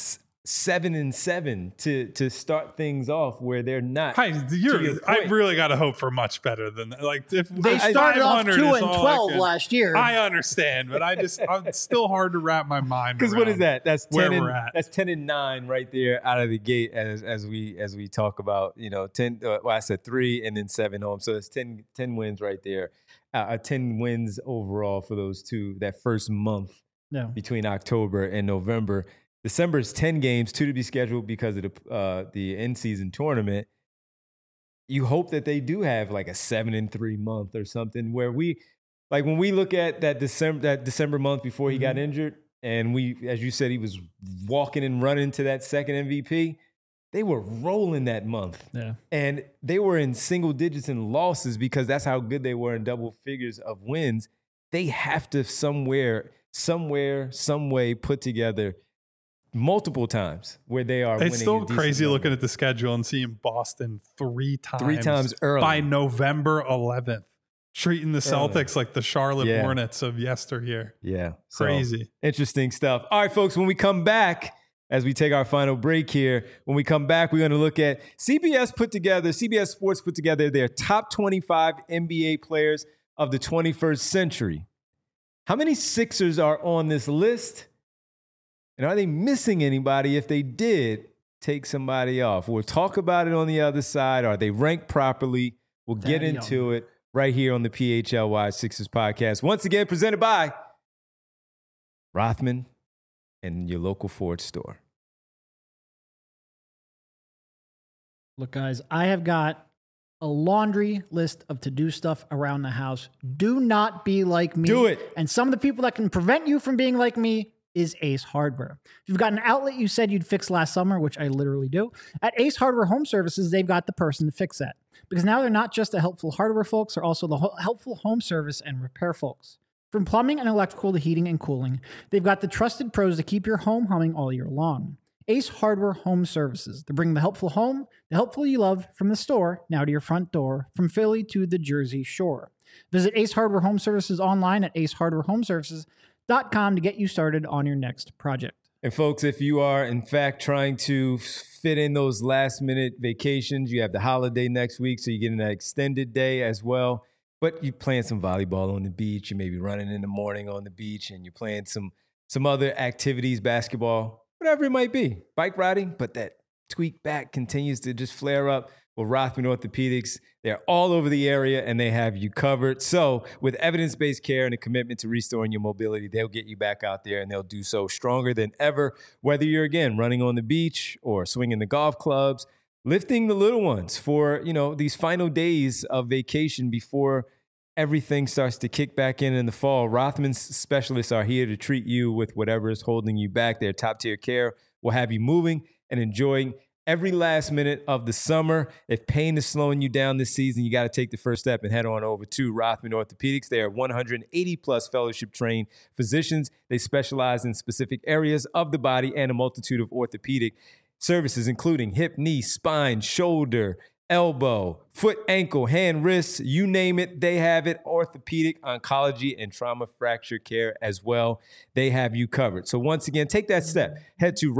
[SPEAKER 1] 7-7 to start things off where they're not.
[SPEAKER 2] I
[SPEAKER 1] point.
[SPEAKER 2] really got to hope for much better than that. Like if
[SPEAKER 3] They started off 2-12 last year.
[SPEAKER 2] I understand, but it's still hard to wrap my mind.
[SPEAKER 1] Because what is that? That's 10
[SPEAKER 2] we're at.
[SPEAKER 1] That's 10-9 right there out of the gate as we talk about 10. Well, I said 3 and then 7 home, so it's 10 wins right there. 10 wins overall for those two that first month between October and November. December is 10 games, 2 to be scheduled because of the in-season tournament. You hope that they do have like a 7-3 month or something where when we look at that December month before he got injured, and as you said, he was walking and running to that second MVP. They were rolling that month. Yeah. And they were in single digits in losses because that's how good they were in double figures of wins. They have to some way put together multiple times where they are winning.
[SPEAKER 2] It's still crazy looking at the schedule and seeing Boston three times
[SPEAKER 1] early
[SPEAKER 2] by November 11th, treating the Celtics like the Charlotte Hornets of yesteryear.
[SPEAKER 1] Yeah.
[SPEAKER 2] Crazy.
[SPEAKER 1] So, interesting stuff. All right, folks, when we come back, as we take our final break here, when we come back, we're going to look at CBS Sports put together their top 25 NBA players of the 21st century. How many Sixers are on this list? And are they missing anybody if they did take somebody off? We'll talk about it on the other side. Are they ranked properly? We'll get into it right here on the PHLY Sixers podcast. Once again, presented by Rothman and your local Ford store.
[SPEAKER 3] Look, guys, I have got a laundry list of to-do stuff around the house. Do not be like me.
[SPEAKER 1] Do it.
[SPEAKER 3] And some of the people that can prevent you from being like me is Ace Hardware. If you've got an outlet you said you'd fix last summer, which I literally do, at Ace Hardware Home Services, they've got the person to fix that. Because now they're not just the helpful hardware folks, they're also the helpful home service and repair folks. From plumbing and electrical to heating and cooling, they've got the trusted pros to keep your home humming all year long. Ace Hardware Home Services. They're bringing the helpful home, the helpful you love, from the store, now to your front door, from Philly to the Jersey Shore. Visit Ace Hardware Home Services online at acehardwarehomeservices.com to get you started on your next project.
[SPEAKER 1] And folks, if you are in fact trying to fit in those last minute vacations, you have the holiday next week, so you're getting that extended day as well. But you're playing some volleyball on the beach, you may be running in the morning on the beach, and you're playing some other activities, basketball, whatever it might be, bike riding, but that tweaked back continues to just flare up. Well, Rothman Orthopedics, they're all over the area and they have you covered. So with evidence-based care and a commitment to restoring your mobility, they'll get you back out there and they'll do so stronger than ever. Whether you're, again, running on the beach or swinging the golf clubs, lifting the little ones for, these final days of vacation before everything starts to kick back in the fall. Rothman's specialists are here to treat you with whatever is holding you back. Their top-tier care will have you moving and enjoying every last minute of the summer. If pain is slowing you down this season, you got to take the first step and head on over to Rothman Orthopedics. They are 180-plus fellowship-trained physicians. They specialize in specific areas of the body and a multitude of orthopedic services, including hip, knee, spine, shoulder, elbow, foot, ankle, hand, wrists, you name it, they have it. Orthopedic, oncology, and trauma fracture care as well. They have you covered. So once again, take that step. Head to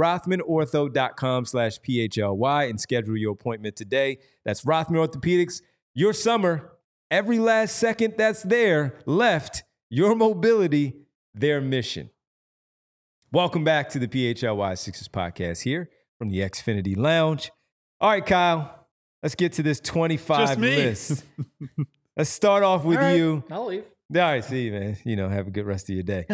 [SPEAKER 1] rothmanortho.com/PHLY and schedule your appointment today. That's Rothman Orthopedics. Your summer, every last second that's there left, your mobility, their mission. Welcome back to the PHLY Sixers podcast here from the Xfinity Lounge. All right, Kyle. Let's get to this 25 list. Let's start off with you.
[SPEAKER 3] I'll leave.
[SPEAKER 1] All right, see, man. Have a good rest of your day.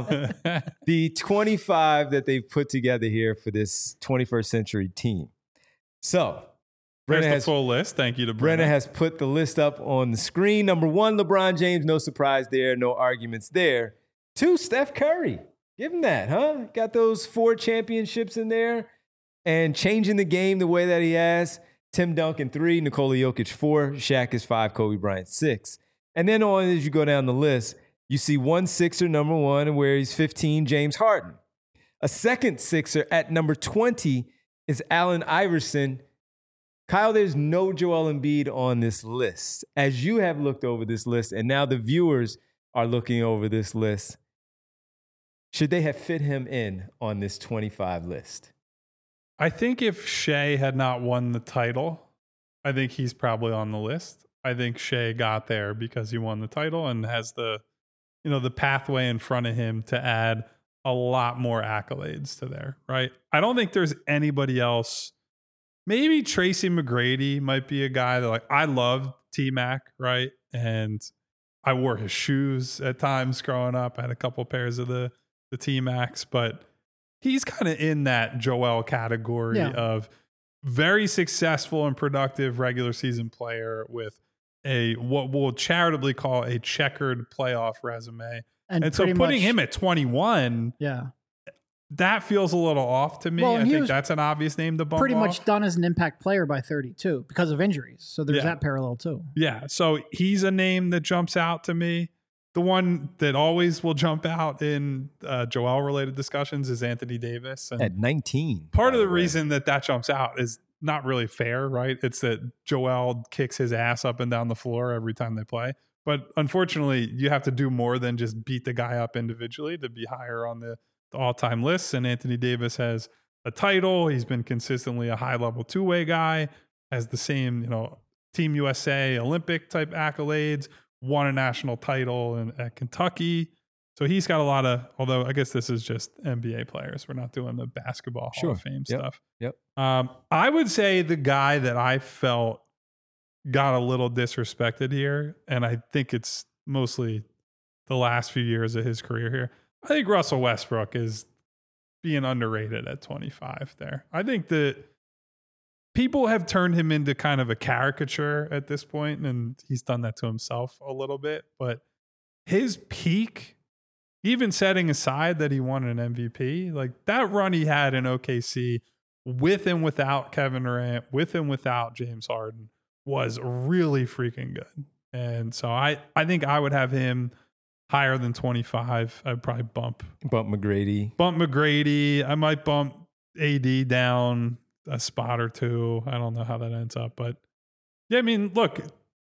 [SPEAKER 1] The 25 that they've put together here for this 21st century team. So,
[SPEAKER 2] Brenna has the full list. Thank you to Brenna.
[SPEAKER 1] Brenna has put the list up on the screen. Number 1, LeBron James. No surprise there. No arguments there. 2, Steph Curry. Give him that, huh? Got those 4 championships in there and changing the game the way that he has. Tim Duncan 3, Nikola Jokic 4, Shaq is 5, Kobe Bryant 6. And then on as you go down the list, you see one Sixer, number 1, where he's 15, James Harden. A second Sixer at number 20 is Allen Iverson. Kyle, there's no Joel Embiid on this list. As you have looked over this list, and now the viewers are looking over this list, should they have fit him in on this 25 list?
[SPEAKER 2] I think if Shea had not won the title, I think he's probably on the list. I think Shea got there because he won the title and has the pathway in front of him to add a lot more accolades to there, right? I don't think there's anybody else. Maybe Tracy McGrady might be a guy that, like, I love T-Mac, right? And I wore his shoes at times growing up. I had a couple pairs of the T-Macs, but he's kind of in that Joel category of very successful and productive regular season player with what we'll charitably call a checkered playoff resume. And so putting him at 21, that feels a little off to me. I think that's an obvious name to bump
[SPEAKER 3] pretty
[SPEAKER 2] off.
[SPEAKER 3] much done as an impact player by 32 because of injuries. So there's that parallel too.
[SPEAKER 2] Yeah. So he's a name that jumps out to me. The one that always will jump out in Joel-related discussions is Anthony Davis. And
[SPEAKER 1] at 19.
[SPEAKER 2] Part of the reason that jumps out is not really fair, right? It's that Joel kicks his ass up and down the floor every time they play. But unfortunately, you have to do more than just beat the guy up individually to be higher on the all-time lists. And Anthony Davis has a title. He's been consistently a high-level two-way guy, has the same, Team USA Olympic type accolades, won a national title at Kentucky. So he's got a lot of, although I guess this is just NBA players. We're not doing the basketball Hall of Fame stuff.
[SPEAKER 1] Yep.
[SPEAKER 2] I would say the guy that I felt got a little disrespected here, and I think it's mostly the last few years of his career here. I think Russell Westbrook is being underrated at 25 there. I think that people have turned him into kind of a caricature at this point, and he's done that to himself a little bit. But his peak, even setting aside that he won an MVP, like that run he had in OKC with and without Kevin Durant, with and without James Harden, was really freaking good. And so I think I would have him higher than 25. I'd probably bump McGrady. I might bump AD down a spot or two. I don't know how that ends up, but yeah, I mean, look,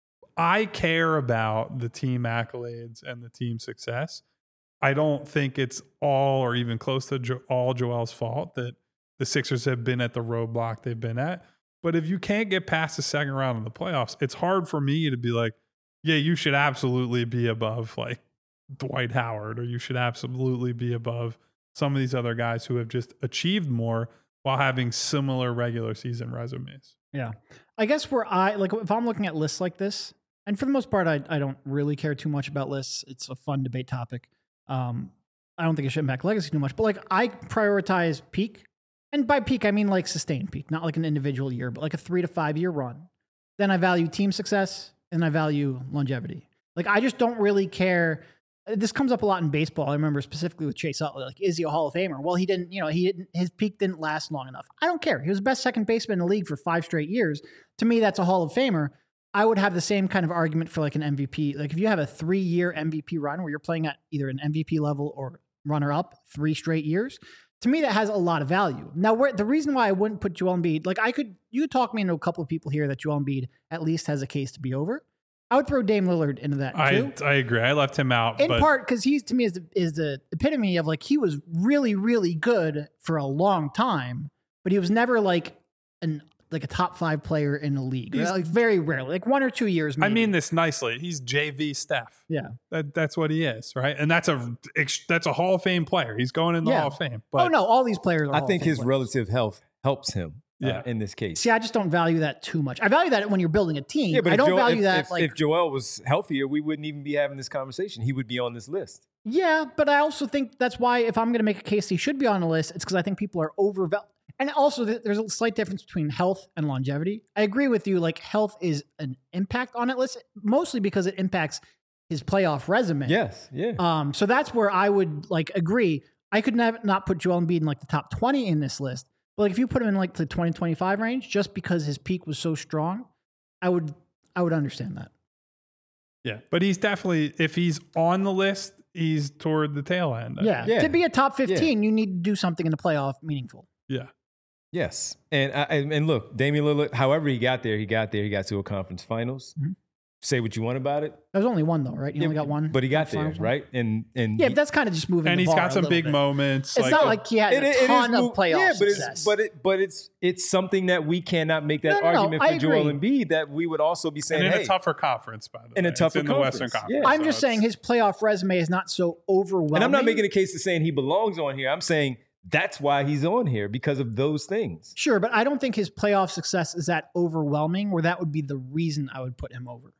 [SPEAKER 2] I care about the team accolades and the team success. I don't think it's all or even close to all Joel's fault that the Sixers have been at the roadblock they've been at. But if you can't get past the second round of the playoffs, it's hard for me to be like, yeah, you should absolutely be above like Dwight Howard, or you should absolutely be above some of these other guys who have just achieved more while having similar regular season resumes.
[SPEAKER 3] Yeah. I guess if I'm looking at lists like this, and for the most part, I don't really care too much about lists. It's a fun debate topic. I don't think it should impact legacy too much, but like I prioritize peak. And by peak, I mean like sustained peak, not like an individual year, but like a 3 to 5 year run. Then I value team success and I value longevity. Like I just don't really care. This comes up a lot in baseball. I remember specifically with Chase Utley, like, is he a Hall of Famer? Well, his peak didn't last long enough. I don't care. He was the best second baseman in the league for 5 straight years. To me, that's a Hall of Famer. I would have the same kind of argument for like an MVP. Like if you have a 3-year MVP run where you're playing at either an MVP level or runner up 3 straight years, to me, that has a lot of value. Now, the reason why I wouldn't put Joel Embiid, like you could talk me into a couple of people here that Joel Embiid at least has a case to be over. I would throw Dame Lillard into that too.
[SPEAKER 2] I agree. I left him out.
[SPEAKER 3] In part because he's, to me, is the epitome of like, he was really, really good for a long time, but he was never like a top 5 player in the league. Like very rarely, like 1 or 2 years. Maybe.
[SPEAKER 2] I mean this nicely. He's JV Steph.
[SPEAKER 3] Yeah,
[SPEAKER 2] that's what he is, right? And that's a Hall of Fame player. He's going in the Hall of Fame. But
[SPEAKER 3] all these players are.
[SPEAKER 1] I think his relative health helps him. In this case.
[SPEAKER 3] See, I just don't value that too much. I value that when you're building a team. Yeah, but I don't value that.
[SPEAKER 1] If Joel was healthier, we wouldn't even be having this conversation. He would be on this list.
[SPEAKER 3] Yeah, but I also think that's why if I'm going to make a case he should be on the list, it's because I think people are overvalued. And also, there's a slight difference between health and longevity. I agree with you. Like health is an impact on it list, mostly because it impacts his playoff resume.
[SPEAKER 1] Yes, yeah.
[SPEAKER 3] So that's where I would like agree. I could not put Joel Embiid in like the top 20 in this list. But like if you put him in like the 20-25 range, just because his peak was so strong, I would understand that.
[SPEAKER 2] Yeah, but he's definitely, if he's on the list, he's toward the tail end.
[SPEAKER 3] Yeah. To be a top 15, you need to do something in the playoff meaningful.
[SPEAKER 2] Yeah.
[SPEAKER 1] Yes. And look, Damian Lillard, however he got there, he got to a conference finals. Mm-hmm. say what you want about it.
[SPEAKER 3] There was only one though, right? You only got one.
[SPEAKER 1] But he got there,
[SPEAKER 3] finals one.
[SPEAKER 1] right? And
[SPEAKER 3] Yeah, but that's kind of just moving.
[SPEAKER 2] And
[SPEAKER 3] the
[SPEAKER 2] he's
[SPEAKER 3] bar
[SPEAKER 2] got some
[SPEAKER 3] a
[SPEAKER 2] big
[SPEAKER 3] bit.
[SPEAKER 2] moments.
[SPEAKER 3] It's not like he had a ton of playoff
[SPEAKER 1] yeah,
[SPEAKER 3] success.
[SPEAKER 1] but it's something that we cannot make that argument for Joel Embiid that we would also be saying,
[SPEAKER 2] and in
[SPEAKER 1] hey,
[SPEAKER 2] a tougher conference, by the way.
[SPEAKER 1] in a tougher
[SPEAKER 2] it's in the Western
[SPEAKER 1] conference.
[SPEAKER 2] Conference.
[SPEAKER 1] Yeah.
[SPEAKER 3] I'm just saying his playoff resume is not so overwhelming.
[SPEAKER 1] And I'm not making a case to saying he belongs on here. I'm saying that's why he's on here, because of those things.
[SPEAKER 3] Sure, but I don't think his playoff success is that overwhelming where that would be the reason I would put him over.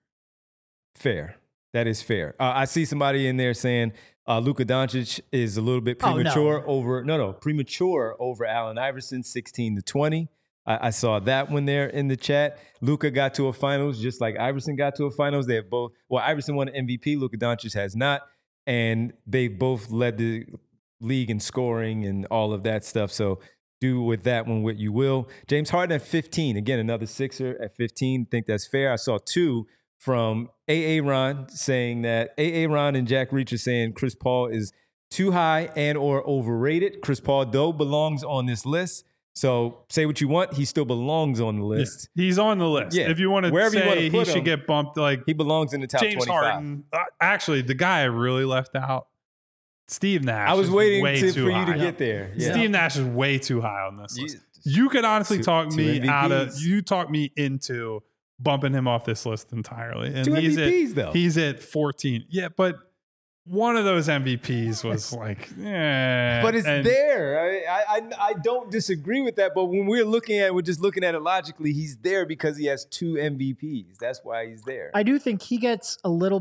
[SPEAKER 1] Fair. That is fair. I see somebody in there saying Luka Doncic is a little bit premature premature over Allen Iverson, 16-20. I saw that one there in the chat. Luka got to a finals just like Iverson got to a finals. They have both. Well, Iverson won an MVP. Luka Doncic has not, and they both led the league in scoring and all of that stuff. So do with that one what you will. James Harden at 15. Again, another Sixer at 15. Think that's fair. I saw two from Ron saying that Ron and Jack Reacher saying Chris Paul is too high and or overrated. Chris Paul, though, belongs on this list. So say what you want. He still belongs on the list.
[SPEAKER 2] Yeah, he's on the list.
[SPEAKER 1] Yeah.
[SPEAKER 2] If you want to
[SPEAKER 1] Wherever
[SPEAKER 2] say
[SPEAKER 1] you want to put
[SPEAKER 2] he should
[SPEAKER 1] him,
[SPEAKER 2] get bumped, like
[SPEAKER 1] he belongs in the top
[SPEAKER 2] James
[SPEAKER 1] 25.
[SPEAKER 2] Harden. Actually, the guy I really left out, Steve Nash.
[SPEAKER 1] I was waiting for you
[SPEAKER 2] high.
[SPEAKER 1] to get there. Yeah.
[SPEAKER 2] Steve Nash is way too high on this list. You could honestly talk me out of. You talk me into bumping him off this list entirely. And
[SPEAKER 1] two MVPs, though.
[SPEAKER 2] He's at 14. Yeah, but one of those MVPs was like,
[SPEAKER 1] But it's there. I don't disagree with that. But when we're just looking at it logically, he's there because he has two MVPs. That's why he's there.
[SPEAKER 3] I do think he gets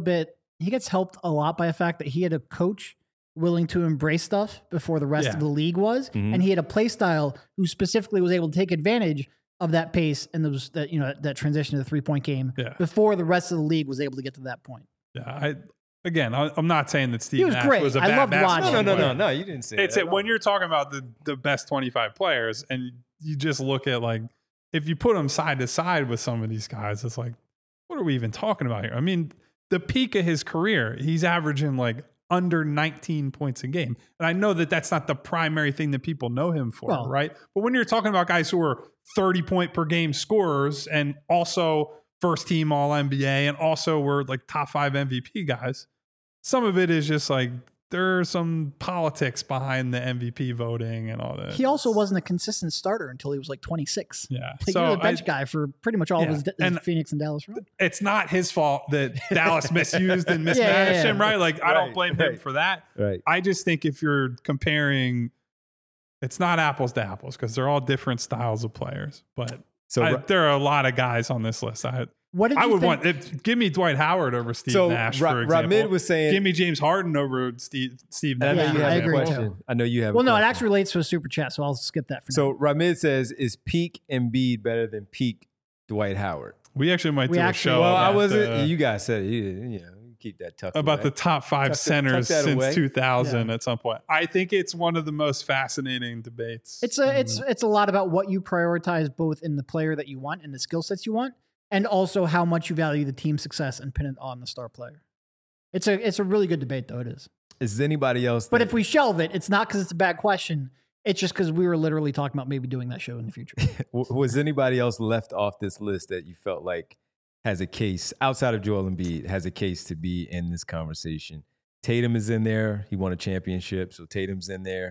[SPEAKER 3] helped a lot by the fact that he had a coach willing to embrace stuff before the rest of the league was.
[SPEAKER 1] Mm-hmm.
[SPEAKER 3] And he had a play style who specifically was able to take advantage of that pace and that transition to the 3-point game before the rest of the league was able to get to that point.
[SPEAKER 2] Yeah, I'm not saying that Steve Nash
[SPEAKER 3] great.
[SPEAKER 2] was a
[SPEAKER 3] I
[SPEAKER 2] bad
[SPEAKER 3] loved
[SPEAKER 2] basketball
[SPEAKER 3] watching.
[SPEAKER 2] player.
[SPEAKER 1] No, you didn't say
[SPEAKER 2] It's
[SPEAKER 1] that.
[SPEAKER 2] when you're talking about the best 25 players and you just look at like, if you put them side to side with some of these guys, it's like, what are we even talking about here? I mean, the peak of his career, he's averaging like under 19 points a game. And I know that that's not the primary thing that people know him for, right? But when you're talking about guys who are 30 point per game scorers and also first team all NBA and also were like top 5 MVP guys, some of it is just like there's some politics behind the MVP voting and all that.
[SPEAKER 3] He also wasn't a consistent starter until he was like 26.
[SPEAKER 2] Yeah.
[SPEAKER 3] Like he was a bench guy for pretty much all of his Phoenix and Dallas run.
[SPEAKER 2] It's not his fault that Dallas misused and mismanaged him, right? Like, I don't blame him for that.
[SPEAKER 1] Right.
[SPEAKER 2] I just think if you're comparing, it's not apples to apples because they're all different styles of players. But there are a lot of guys on this list. Give me Dwight Howard over Steve Nash, for example.
[SPEAKER 1] Ramid was saying,
[SPEAKER 2] give me James Harden over Steve Nash.
[SPEAKER 3] I agree too.
[SPEAKER 1] I know you have.
[SPEAKER 3] Well, no, it actually relates to a super chat, so I'll skip that for now.
[SPEAKER 1] So Ramid says, is peak Embiid better than peak Dwight Howard?
[SPEAKER 2] We actually might do a show.
[SPEAKER 1] Well, I wasn't. You guys said, keep that tucked
[SPEAKER 2] about
[SPEAKER 1] away.
[SPEAKER 2] The top 5 centers since 2000
[SPEAKER 3] Yeah.
[SPEAKER 2] at some point. I think it's one of the most fascinating debates.
[SPEAKER 3] It's a lot about what you prioritize both in the player that you want and the skill sets you want, and also how much you value the team success and pin it on the star player. It's a really good debate, though. It is.
[SPEAKER 1] Is anybody else?
[SPEAKER 3] But if we shelve it, it's not because it's a bad question. It's just because we were literally talking about maybe doing that show in the future.
[SPEAKER 1] Was anybody else left off this list that you felt like has a case outside of Joel Embiid, has a case to be in this conversation? Tatum is in there. He won a championship, so Tatum's in there.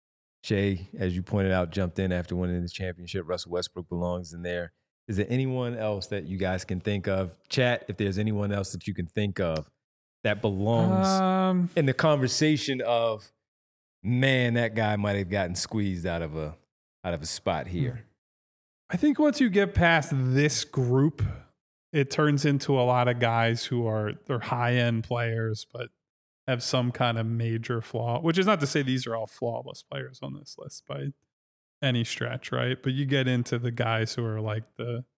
[SPEAKER 1] Shea, as you pointed out, jumped in after winning the championship. Russell Westbrook belongs in there. Is there anyone else that you guys can think of? Chat, if there's anyone else that you can think of that belongs in the conversation of, man, that guy might have gotten squeezed out of a spot here.
[SPEAKER 2] I think once you get past this group, it turns into a lot of guys they're high-end players, but have some kind of major flaw, which is not to say these are all flawless players on this list by any stretch, right? But you get into the guys who are like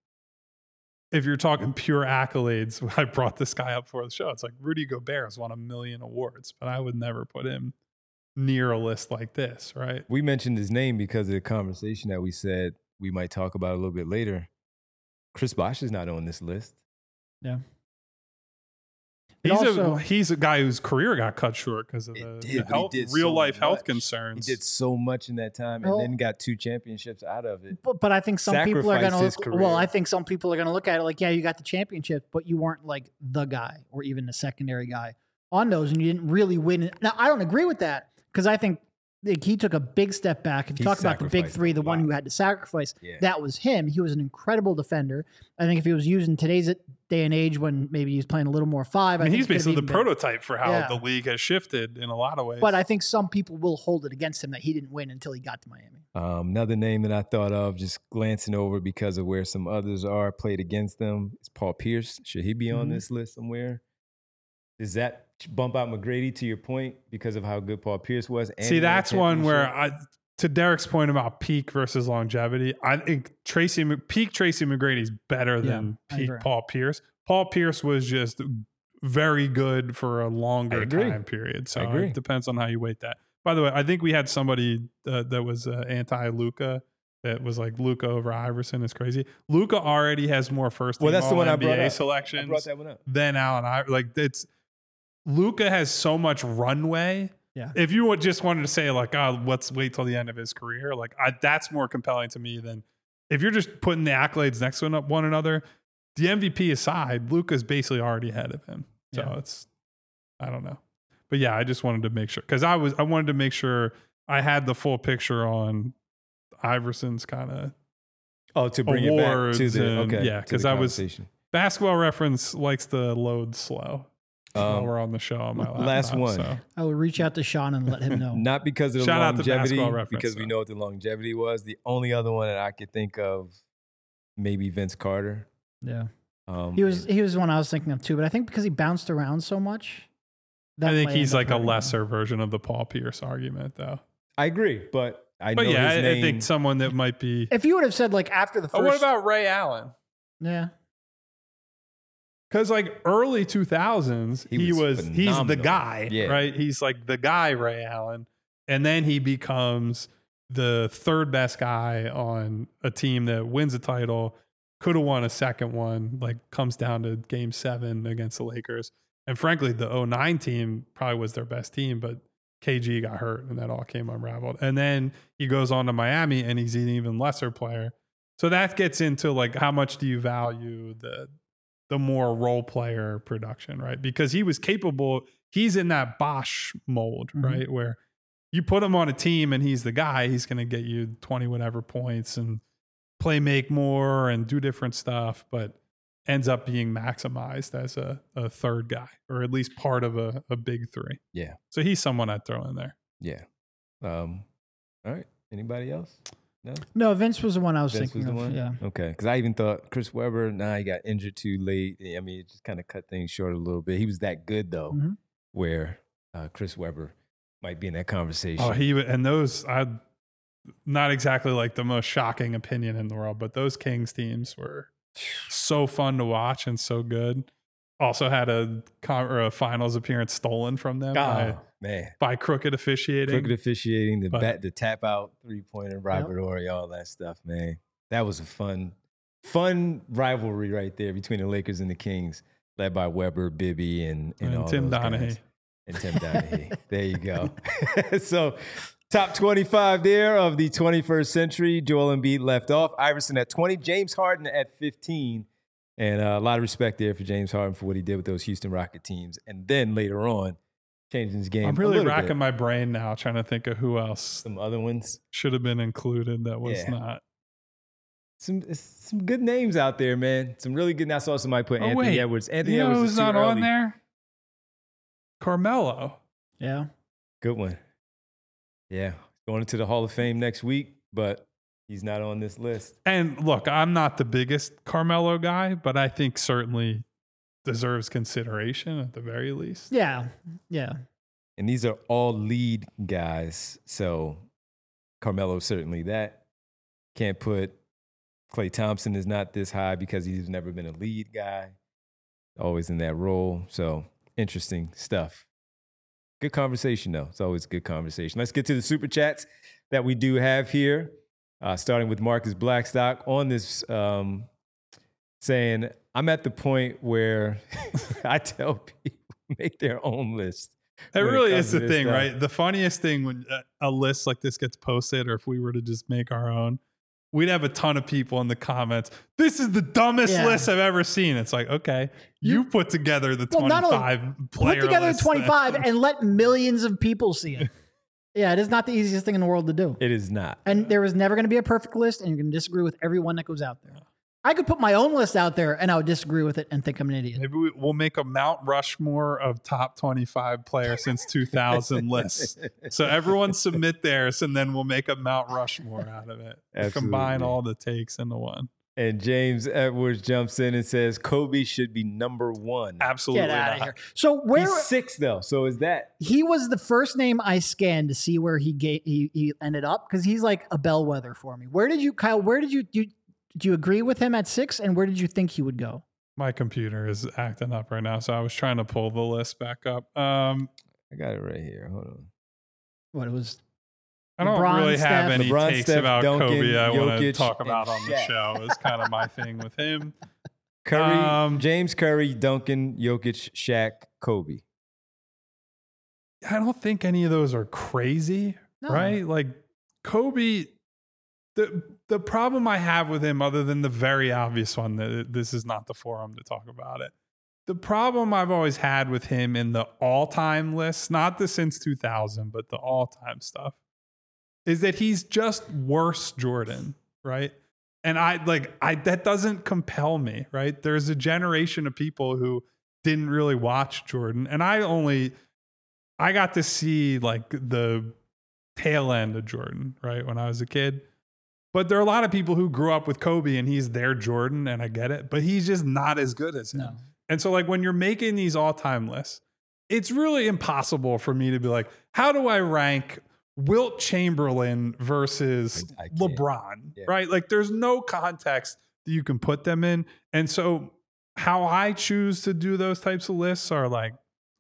[SPEAKER 2] if you're talking pure accolades, I brought this guy up for the show. It's like Rudy Gobert has won 1 million awards, but I would never put him near a list like this, right?
[SPEAKER 1] We mentioned his name because of the conversation that we said we might talk about a little bit later. Chris Bosh is not on this list.
[SPEAKER 3] Yeah.
[SPEAKER 2] He's a guy whose career got cut short because of real life health concerns.
[SPEAKER 1] He did so much in that time, and then got 2 championships out of it.
[SPEAKER 3] But I think some people are going to look.
[SPEAKER 1] Well,
[SPEAKER 3] I think some people are going to look at it like, yeah, you got the championship, but you weren't like the guy or even the secondary guy on those, and you didn't really win. Now, I don't agree with that because I think he took a big step back. If you talk about the big 3, the one who had to sacrifice, that was him. He was an incredible defender. I think if he was used in today's day and age when maybe he's playing a little more 5,
[SPEAKER 2] I mean, he's basically the prototype for how the league has shifted in a lot of ways.
[SPEAKER 3] But I think some people will hold it against him that he didn't win until he got to Miami.
[SPEAKER 1] Another name that I thought of just glancing over because of where some others are played against them is Paul Pierce. Should he be on this list somewhere? Does that bump out McGrady to your point because of how good Paul Pierce was? And
[SPEAKER 2] see, that's one where to Derek's point about peak versus longevity, I think peak Tracy McGrady is better than peak Paul Pierce. Paul Pierce was just very good for a longer time period. So it depends on how you weight that. By the way, I think we had somebody that was anti-Luka. That was like Luka over Iverson is crazy. Luka already has more first team NBA selections
[SPEAKER 1] I brought that one up.
[SPEAKER 2] than Allen Iverson. Like Luka has so much runway.
[SPEAKER 3] Yeah.
[SPEAKER 2] If you just wanted to say like, oh, let's wait till the end of his career, like that's more compelling to me than if you're just putting the accolades next to one another. The MVP aside, Luka's basically already ahead of him. So it's, I don't know. But yeah, I just wanted to make sure because I wanted to make sure I had the full picture on Iverson's kind of
[SPEAKER 1] to bring it back to the
[SPEAKER 2] because I was Basketball Reference likes to load slow. While we're on the show on my laptop.
[SPEAKER 1] Last one.
[SPEAKER 2] So.
[SPEAKER 3] I will reach out to Sean and let him know.
[SPEAKER 1] Not because of the longevity, because we know what the longevity was. The only other one that I could think of, maybe Vince Carter.
[SPEAKER 3] Yeah. He was the one I was thinking of too, but I think because he bounced around so much.
[SPEAKER 2] I think he's like a lesser version of the Paul Pierce argument, though.
[SPEAKER 1] I agree, but I know his name.
[SPEAKER 2] I think someone that might be.
[SPEAKER 3] If you would have said like after the first.
[SPEAKER 2] Oh, what about Ray Allen?
[SPEAKER 3] Yeah.
[SPEAKER 2] Because like early 2000s, he's the guy, right? He's like the guy, Ray Allen. And then he becomes the 3rd best guy on a team that wins a title, could have won a second one, like comes down to game 7 against the Lakers. And frankly, the 2009 team probably was their best team, but KG got hurt and that all came unraveled. And then he goes on to Miami and he's an even lesser player. So that gets into like, how much do you value the more role player production, right? Because he was capable, he's in that Bosch mold, right? Where you put him on a team and he's the guy, he's going to get you 20 whatever points and make more and do different stuff, but ends up being maximized as a 3rd guy, or at least part of a big 3.
[SPEAKER 1] Yeah.
[SPEAKER 2] So he's someone I'd throw in there.
[SPEAKER 1] Yeah. All right. Anybody else?
[SPEAKER 3] No, Vince was the one I was thinking of. Yeah.
[SPEAKER 1] Okay. Because I even thought Chris Webber, he got injured too late. I mean, it just kind of cut things short a little bit. He was that good, though, where Chris Webber might be in that conversation.
[SPEAKER 2] Oh, not exactly like the most shocking opinion in the world, but those Kings teams were so fun to watch and so good. Also had a finals appearance stolen from them by crooked officiating.
[SPEAKER 1] The tap out 3-pointer rivalry, all that stuff, man. That was a fun rivalry right there between the Lakers and the Kings, led by Webber, Bibby, and all
[SPEAKER 2] Tim
[SPEAKER 1] those
[SPEAKER 2] Donaghy.
[SPEAKER 1] Guys. And Tim Donaghy. There you go. So top 25 there of the 21st century. Joel Embiid left off. Iverson at 20. James Harden at 15. And a lot of respect there for James Harden for what he did with those Houston Rocket teams. And then later on, changing his game.
[SPEAKER 2] I'm really racking my brain now trying to think of who else.
[SPEAKER 1] Some other ones.
[SPEAKER 2] Should have been included that was not.
[SPEAKER 1] Some good names out there, man. Some really good. I saw somebody put Anthony Edwards. Anthony Edwards
[SPEAKER 2] who's not on there? Carmelo.
[SPEAKER 3] Yeah.
[SPEAKER 1] Good one. Yeah. Going into the Hall of Fame next week, but he's not on this list.
[SPEAKER 2] And look, I'm not the biggest Carmelo guy, but I think certainly deserves consideration at the very least.
[SPEAKER 3] Yeah. Yeah.
[SPEAKER 1] And these are all lead guys. So Carmelo certainly that. Can't put Klay Thompson is not this high because he's never been a lead guy. Always in that role. So interesting stuff. Good conversation, though. It's always a good conversation. Let's get to the super chats that we do have here. Starting with Marcus Blackstock on this saying, I'm at the point where I tell people make their own list.
[SPEAKER 2] That
[SPEAKER 1] when it
[SPEAKER 2] really
[SPEAKER 1] comes
[SPEAKER 2] is
[SPEAKER 1] to
[SPEAKER 2] the
[SPEAKER 1] this
[SPEAKER 2] thing,
[SPEAKER 1] stuff.
[SPEAKER 2] right? The funniest thing when a list like this gets posted, or if we were to just make our own, we'd have a ton of people in the comments. This is the dumbest
[SPEAKER 3] Yeah.
[SPEAKER 2] list I've ever seen. It's like, okay, you put together the
[SPEAKER 3] Well, not only
[SPEAKER 2] 25 player
[SPEAKER 3] Put together
[SPEAKER 2] list
[SPEAKER 3] 25
[SPEAKER 2] then.
[SPEAKER 3] and let millions of people see it. Yeah, it is not the easiest thing in the world to do.
[SPEAKER 1] It is not.
[SPEAKER 3] And there is never going to be a perfect list, and you're going to disagree with everyone that goes out there. I could put my own list out there, and I would disagree with it and think I'm an idiot.
[SPEAKER 2] Maybe we'll make a Mount Rushmore of top 25 players since 2000 lists. So everyone submit theirs, and then we'll make a Mount Rushmore out of it. We'll combine
[SPEAKER 1] Absolutely.
[SPEAKER 2] all the takes into one.
[SPEAKER 1] And James Edwards jumps in and says Kobe should be number 1.
[SPEAKER 2] Absolutely
[SPEAKER 3] Get out
[SPEAKER 2] not.
[SPEAKER 3] of here. So where
[SPEAKER 1] He's 6 though. So is that
[SPEAKER 3] he was the first name I scanned to see where he ended up, because he's like a bellwether for me. Where did you, Kyle? Where did you agree with him at 6, and where did you think he would go?
[SPEAKER 2] My computer is acting up right now, so I was trying to pull the list back up.
[SPEAKER 1] I got it right here. Hold on.
[SPEAKER 3] What it was?
[SPEAKER 2] I don't
[SPEAKER 3] LeBron,
[SPEAKER 2] really have
[SPEAKER 3] Steph.
[SPEAKER 2] any
[SPEAKER 1] LeBron,
[SPEAKER 2] takes
[SPEAKER 1] Steph,
[SPEAKER 2] about
[SPEAKER 1] Duncan,
[SPEAKER 2] Kobe I want to
[SPEAKER 1] Jokic,
[SPEAKER 2] talk about
[SPEAKER 1] and
[SPEAKER 2] on the
[SPEAKER 1] Shaq.
[SPEAKER 2] show. It's kind of my thing with him.
[SPEAKER 1] Curry, James Curry, Duncan, Jokic, Shaq, Kobe.
[SPEAKER 2] I don't think any of those are crazy,
[SPEAKER 3] No.
[SPEAKER 2] right? Like Kobe, the problem I have with him, other than the very obvious one, that this is not the forum to talk about it. The problem I've always had with him in the all-time list, not the since 2000, but the all-time stuff, is that he's just worse Jordan, right? And that doesn't compel me, right? There's a generation of people who didn't really watch Jordan, and I got to see like the tail end of Jordan, right, when I was a kid. But there are a lot of people who grew up with Kobe and he's their Jordan, and I get it, but he's just not as good as him.
[SPEAKER 3] No.
[SPEAKER 2] And so like when you're making these all-time lists, it's really impossible for me to be like, how do I rank Wilt Chamberlain versus
[SPEAKER 1] I can't.
[SPEAKER 2] LeBron,
[SPEAKER 1] Yeah.
[SPEAKER 2] right? Like there's no context that you can put them in. And so how I choose to do those types of lists are like,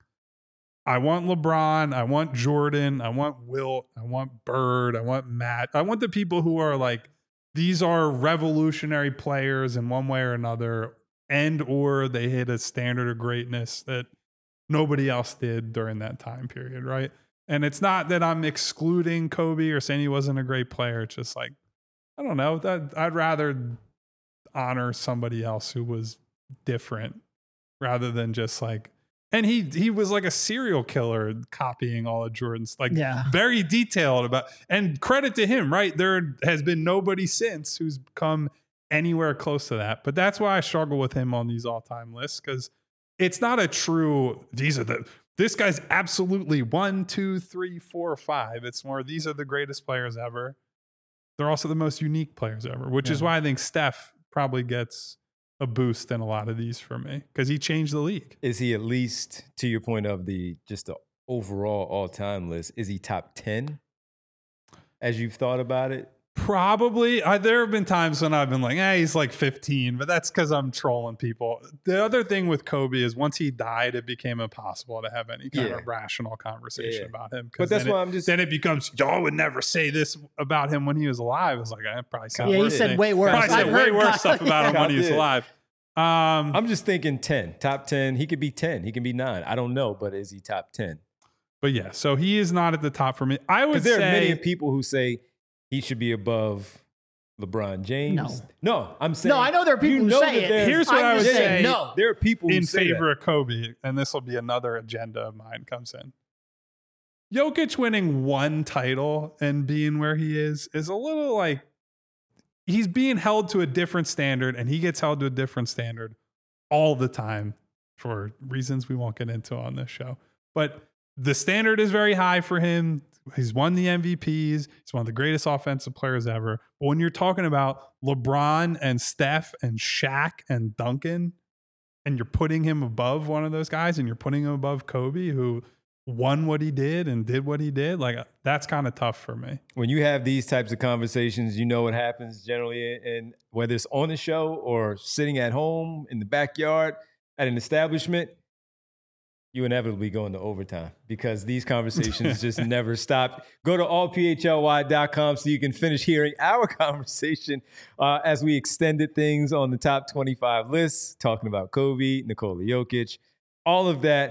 [SPEAKER 2] I want LeBron, I want Jordan, I want Wilt, I want Bird, I want Matt. I want the people who are like, these are revolutionary players in one way or another, and or they hit a standard of greatness that nobody else did during that time period, right? And it's not that I'm excluding Kobe or saying he wasn't a great player. It's just like, I don't know, that I'd rather honor somebody else who was different rather than just like, and he was like a serial killer copying all of Jordan's, like very detailed about, and credit to him, right? There has been nobody since who's come anywhere close to that. But that's why I struggle with him on these all-time lists, because it's not a true, this guy's absolutely 1, 2, 3, 4, 5. It's more, these are the greatest players ever. They're also the most unique players ever, which is why I think Steph probably gets a boost in a lot of these for me, because he changed the league.
[SPEAKER 1] Is he at least, to your point of just the overall all-time list, is he top 10 as you've thought about it?
[SPEAKER 2] Probably. There have been times when I've been like, he's like 15, but that's because I'm trolling people. The other thing with Kobe is once he died, it became impossible to have any kind of rational conversation about him.
[SPEAKER 1] But that's why
[SPEAKER 2] then it becomes, y'all would never say this about him when he was alive. It's like, I probably said
[SPEAKER 3] he said way worse.
[SPEAKER 2] Probably said way worse stuff about him when he was alive.
[SPEAKER 1] I'm just thinking 10, top 10. He could be 10. He can be 9. I don't know, but is he top 10?
[SPEAKER 2] But yeah, so he is not at the top for me. I would
[SPEAKER 1] there
[SPEAKER 2] say
[SPEAKER 1] are many people who say he should be above LeBron James. No, I'm saying.
[SPEAKER 3] No, I know there are people who say it.
[SPEAKER 2] Here's what I would say.
[SPEAKER 3] No,
[SPEAKER 1] there are people who
[SPEAKER 2] in
[SPEAKER 1] say
[SPEAKER 2] favor
[SPEAKER 1] that.
[SPEAKER 2] of Kobe, and this will be another agenda of mine comes in. Jokic winning one title and being where he is a little like he's being held to a different standard, and he gets held to a different standard all the time for reasons we won't get into on this show. But the standard is very high for him. He's won the MVPs. He's one of the greatest offensive players ever. But when you're talking about LeBron and Steph and Shaq and Duncan, and you're putting him above one of those guys, and you're putting him above Kobe, who won what he did and did what he did, like that's kind of tough for me.
[SPEAKER 1] When you have these types of conversations, you know what happens generally, and whether it's on the show or sitting at home in the backyard at an establishment, you inevitably go into overtime because these conversations just never stop. Go to allphly.com so you can finish hearing our conversation as we extended things on the top 25 lists, talking about Kobe, Nikola Jokic, all of that.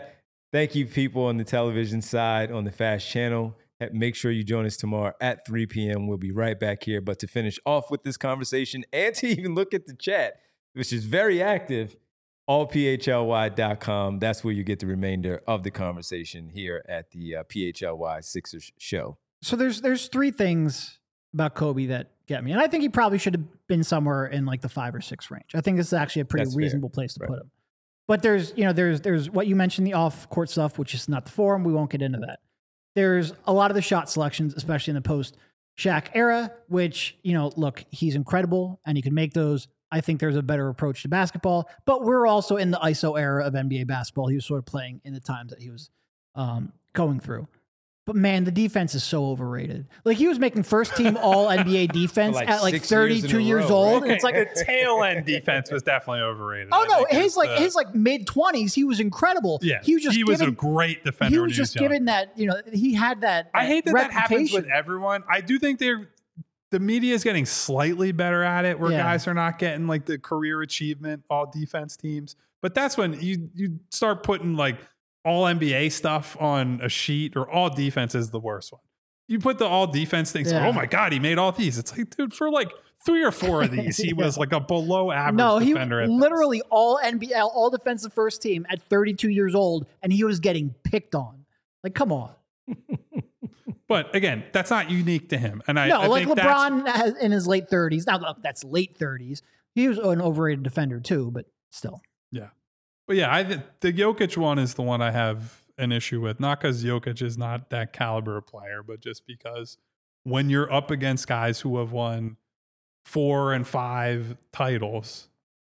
[SPEAKER 1] Thank you, people on the television side, on the Fast channel. Make sure you join us tomorrow at 3 p.m. We'll be right back here. But to finish off with this conversation and to even look at the chat, which is very active, allphly.com. That's where you get the remainder of the conversation here at the PHLY Sixers show.
[SPEAKER 3] So there's three things about Kobe that get me. And I think he probably should have been somewhere in like the 5 or 6 range. I think this is actually a pretty reasonable place to put him. But there's what you mentioned, the off-court stuff, which is not the forum. We won't get into that. There's a lot of the shot selections, especially in the post-Shaq era, which, look, he's incredible and he can make those. I think there's a better approach to basketball, but we're also in the ISO era of NBA basketball. He was sort of playing in the times that he was going through. But man, the defense is so overrated. Like he was making first team all NBA defense at like 32 years old.
[SPEAKER 2] Right? It's like a tail end defense was definitely overrated.
[SPEAKER 3] Oh no, his mid 20s, he was incredible.
[SPEAKER 2] Yeah,
[SPEAKER 3] he
[SPEAKER 2] was a great defender.
[SPEAKER 3] He was just given that, he had that.
[SPEAKER 2] I hate that happens with everyone. I do think the media is getting slightly better at it, where guys are not getting like the career achievement all defense teams. But that's when you start putting like all NBA stuff on a sheet, or all defense is the worst one. You put the all defense things. Oh my God, he made all these. It's like, dude, for like 3 or 4 of these, he was like a below average defender.
[SPEAKER 3] No, he literally all NBL, all defensive first team at 32 years old, and he was getting picked on. Like, come on.
[SPEAKER 2] But again, that's not unique to him. And I
[SPEAKER 3] like
[SPEAKER 2] think
[SPEAKER 3] LeBron has, in his late 30s. Now, look, that's late 30s. He was an overrated defender too, but still.
[SPEAKER 2] Yeah. But yeah, the Jokic one is the one I have an issue with. Not because Jokic is not that caliber of player, but just because when you're up against guys who have won 4 and 5 titles,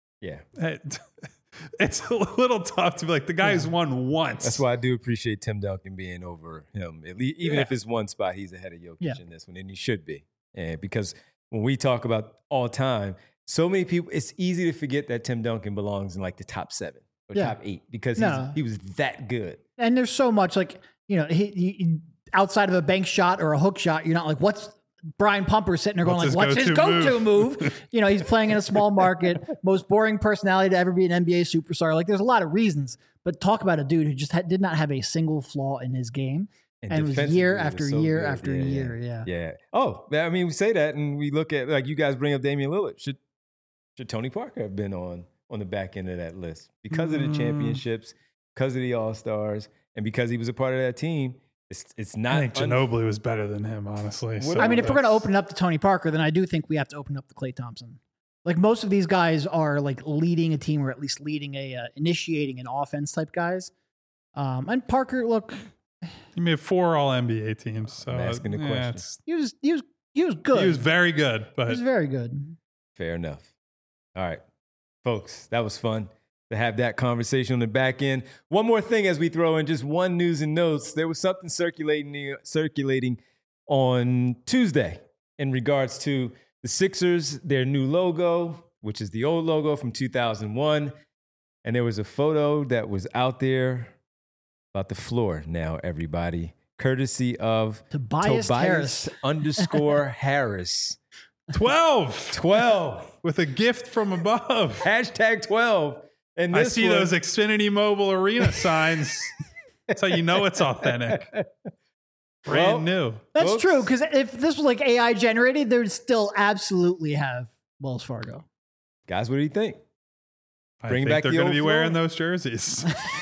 [SPEAKER 2] it's a little tough to be like the guy who's won once.
[SPEAKER 1] That's why I do appreciate Tim Duncan being over him. At least, even if it's one spot, he's ahead of Jokic in this one, and he should be. And because when we talk about all time, so many people, it's easy to forget that Tim Duncan belongs in like the top 7. Or top 8 because he was that good. And
[SPEAKER 3] there's so much like, he outside of a bank shot or a hook shot, you're not like, what's Brian Pumper sitting there going like, what's his go-to move? He's playing in a small market, most boring personality to ever be an NBA superstar. Like there's a lot of reasons, but talk about a dude who just did not have a single flaw in his game. And it was year after year after year.
[SPEAKER 1] Yeah. Oh, I mean, we say that and we look at, like you guys bring up Damian Lillard. Should Tony Parker have been on the back end of that list because of the championships, because of the All-Stars, and because he was a part of that team? It's not.
[SPEAKER 2] I think Ginobili was better than him, honestly.
[SPEAKER 3] So I mean, if we're going to open it up to Tony Parker, then I do think we have to open up to Klay Thompson. Like most of these guys are like leading a team, or at least leading initiating an offense type guys. And Parker, look,
[SPEAKER 2] he made 4 All NBA teams. So
[SPEAKER 1] I'm asking the question.
[SPEAKER 3] He was good.
[SPEAKER 2] He was very good, but
[SPEAKER 3] he was very good.
[SPEAKER 1] Fair enough. All right. Folks, that was fun to have that conversation on the back end. One more thing as we throw in just one news and notes. There was something circulating on Tuesday in regards to the Sixers, their new logo, which is the old logo from 2001. And there was a photo that was out there about the floor now, everybody, courtesy of Tobias Harris. _Harris.
[SPEAKER 2] 12 with a gift from above.
[SPEAKER 1] Hashtag 12. And
[SPEAKER 2] I see those Xfinity Mobile Arena signs. That's how you know it's authentic. Brand new.
[SPEAKER 3] That's true, because if this was like AI generated, they would still absolutely have Wells Fargo.
[SPEAKER 1] Guys, what do you think?
[SPEAKER 2] Bring back they're going to be wearing those jerseys.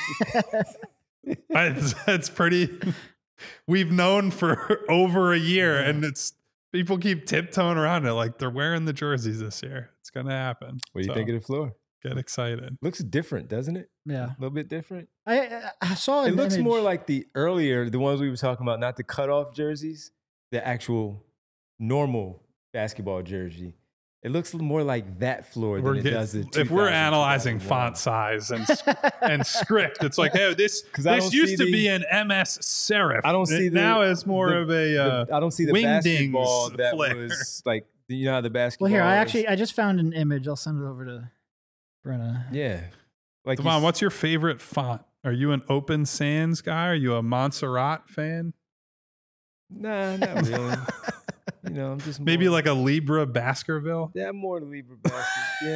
[SPEAKER 2] That's pretty. We've known for over a year, and people keep tiptoeing around it like they're wearing the jerseys this year. It's going to happen.
[SPEAKER 1] What do you think of the floor?
[SPEAKER 2] Get excited.
[SPEAKER 1] Looks different, doesn't it?
[SPEAKER 3] Yeah.
[SPEAKER 1] A little bit different.
[SPEAKER 3] I saw an
[SPEAKER 1] It looks
[SPEAKER 3] image.
[SPEAKER 1] more like the ones we were talking about, not the cutoff jerseys, the actual normal basketball jersey. It looks more like that floor than it does the 2000.
[SPEAKER 2] If we're analyzing font size and script, it's like, hey, this used to be an MS serif.
[SPEAKER 1] I don't see
[SPEAKER 2] now it's more of a
[SPEAKER 1] I don't see the basketball that
[SPEAKER 2] flare.
[SPEAKER 1] was like, how the basketball.
[SPEAKER 3] Well, here, I just found an image. I'll send it over to Brenna.
[SPEAKER 1] Yeah. Like,
[SPEAKER 2] Devon, what's your favorite font? Are you an Open Sans guy? Are you a Montserrat fan?
[SPEAKER 1] Nah, not really. I'm just
[SPEAKER 2] maybe like a Libra Baskerville.
[SPEAKER 1] Yeah, I'm more the Libra Baskerville. Yeah,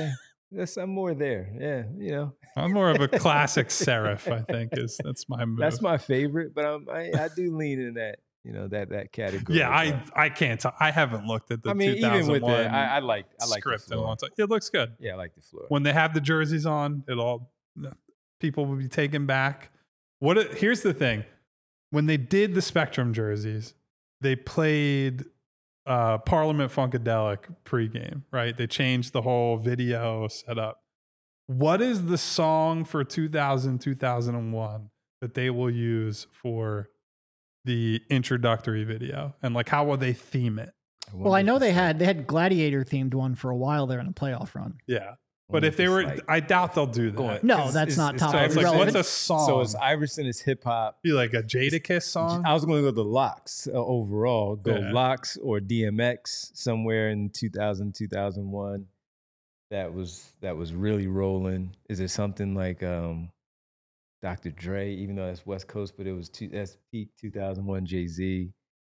[SPEAKER 1] I'm more there. Yeah, you know.
[SPEAKER 2] I'm more of a classic Serif, I think. That's my move.
[SPEAKER 1] That's my favorite, but I do lean in that, you know, that category.
[SPEAKER 2] Yeah, I can't tell. I haven't looked at the 2001
[SPEAKER 1] even with the I like
[SPEAKER 2] script
[SPEAKER 1] the
[SPEAKER 2] in a
[SPEAKER 1] floor.
[SPEAKER 2] long time. It looks good.
[SPEAKER 1] Yeah, I like the floor.
[SPEAKER 2] When they have the jerseys on, people will be taken back. Here's the thing. When they did the Spectrum jerseys, they played Parliament Funkadelic pregame, right? They changed the whole video setup. What is the song for 2001 that they will use for the introductory video? And like, how will they theme it?
[SPEAKER 3] Well, I know they had Gladiator themed one for a while there in the playoff run.
[SPEAKER 2] Yeah. But if they were, I doubt they'll do that.
[SPEAKER 3] No, that's not top.
[SPEAKER 2] So it's like,
[SPEAKER 3] relevant.
[SPEAKER 2] what's a song?
[SPEAKER 1] So it's Iverson is hip hop.
[SPEAKER 2] Be like a Jadakiss song?
[SPEAKER 1] I was going to go the Locks overall. Go
[SPEAKER 2] Yeah.
[SPEAKER 1] Locks or DMX somewhere in 2000, 2001. That was really rolling. Is it something like Dr. Dre, even though that's West Coast, but that's peak 2001 Jay-Z.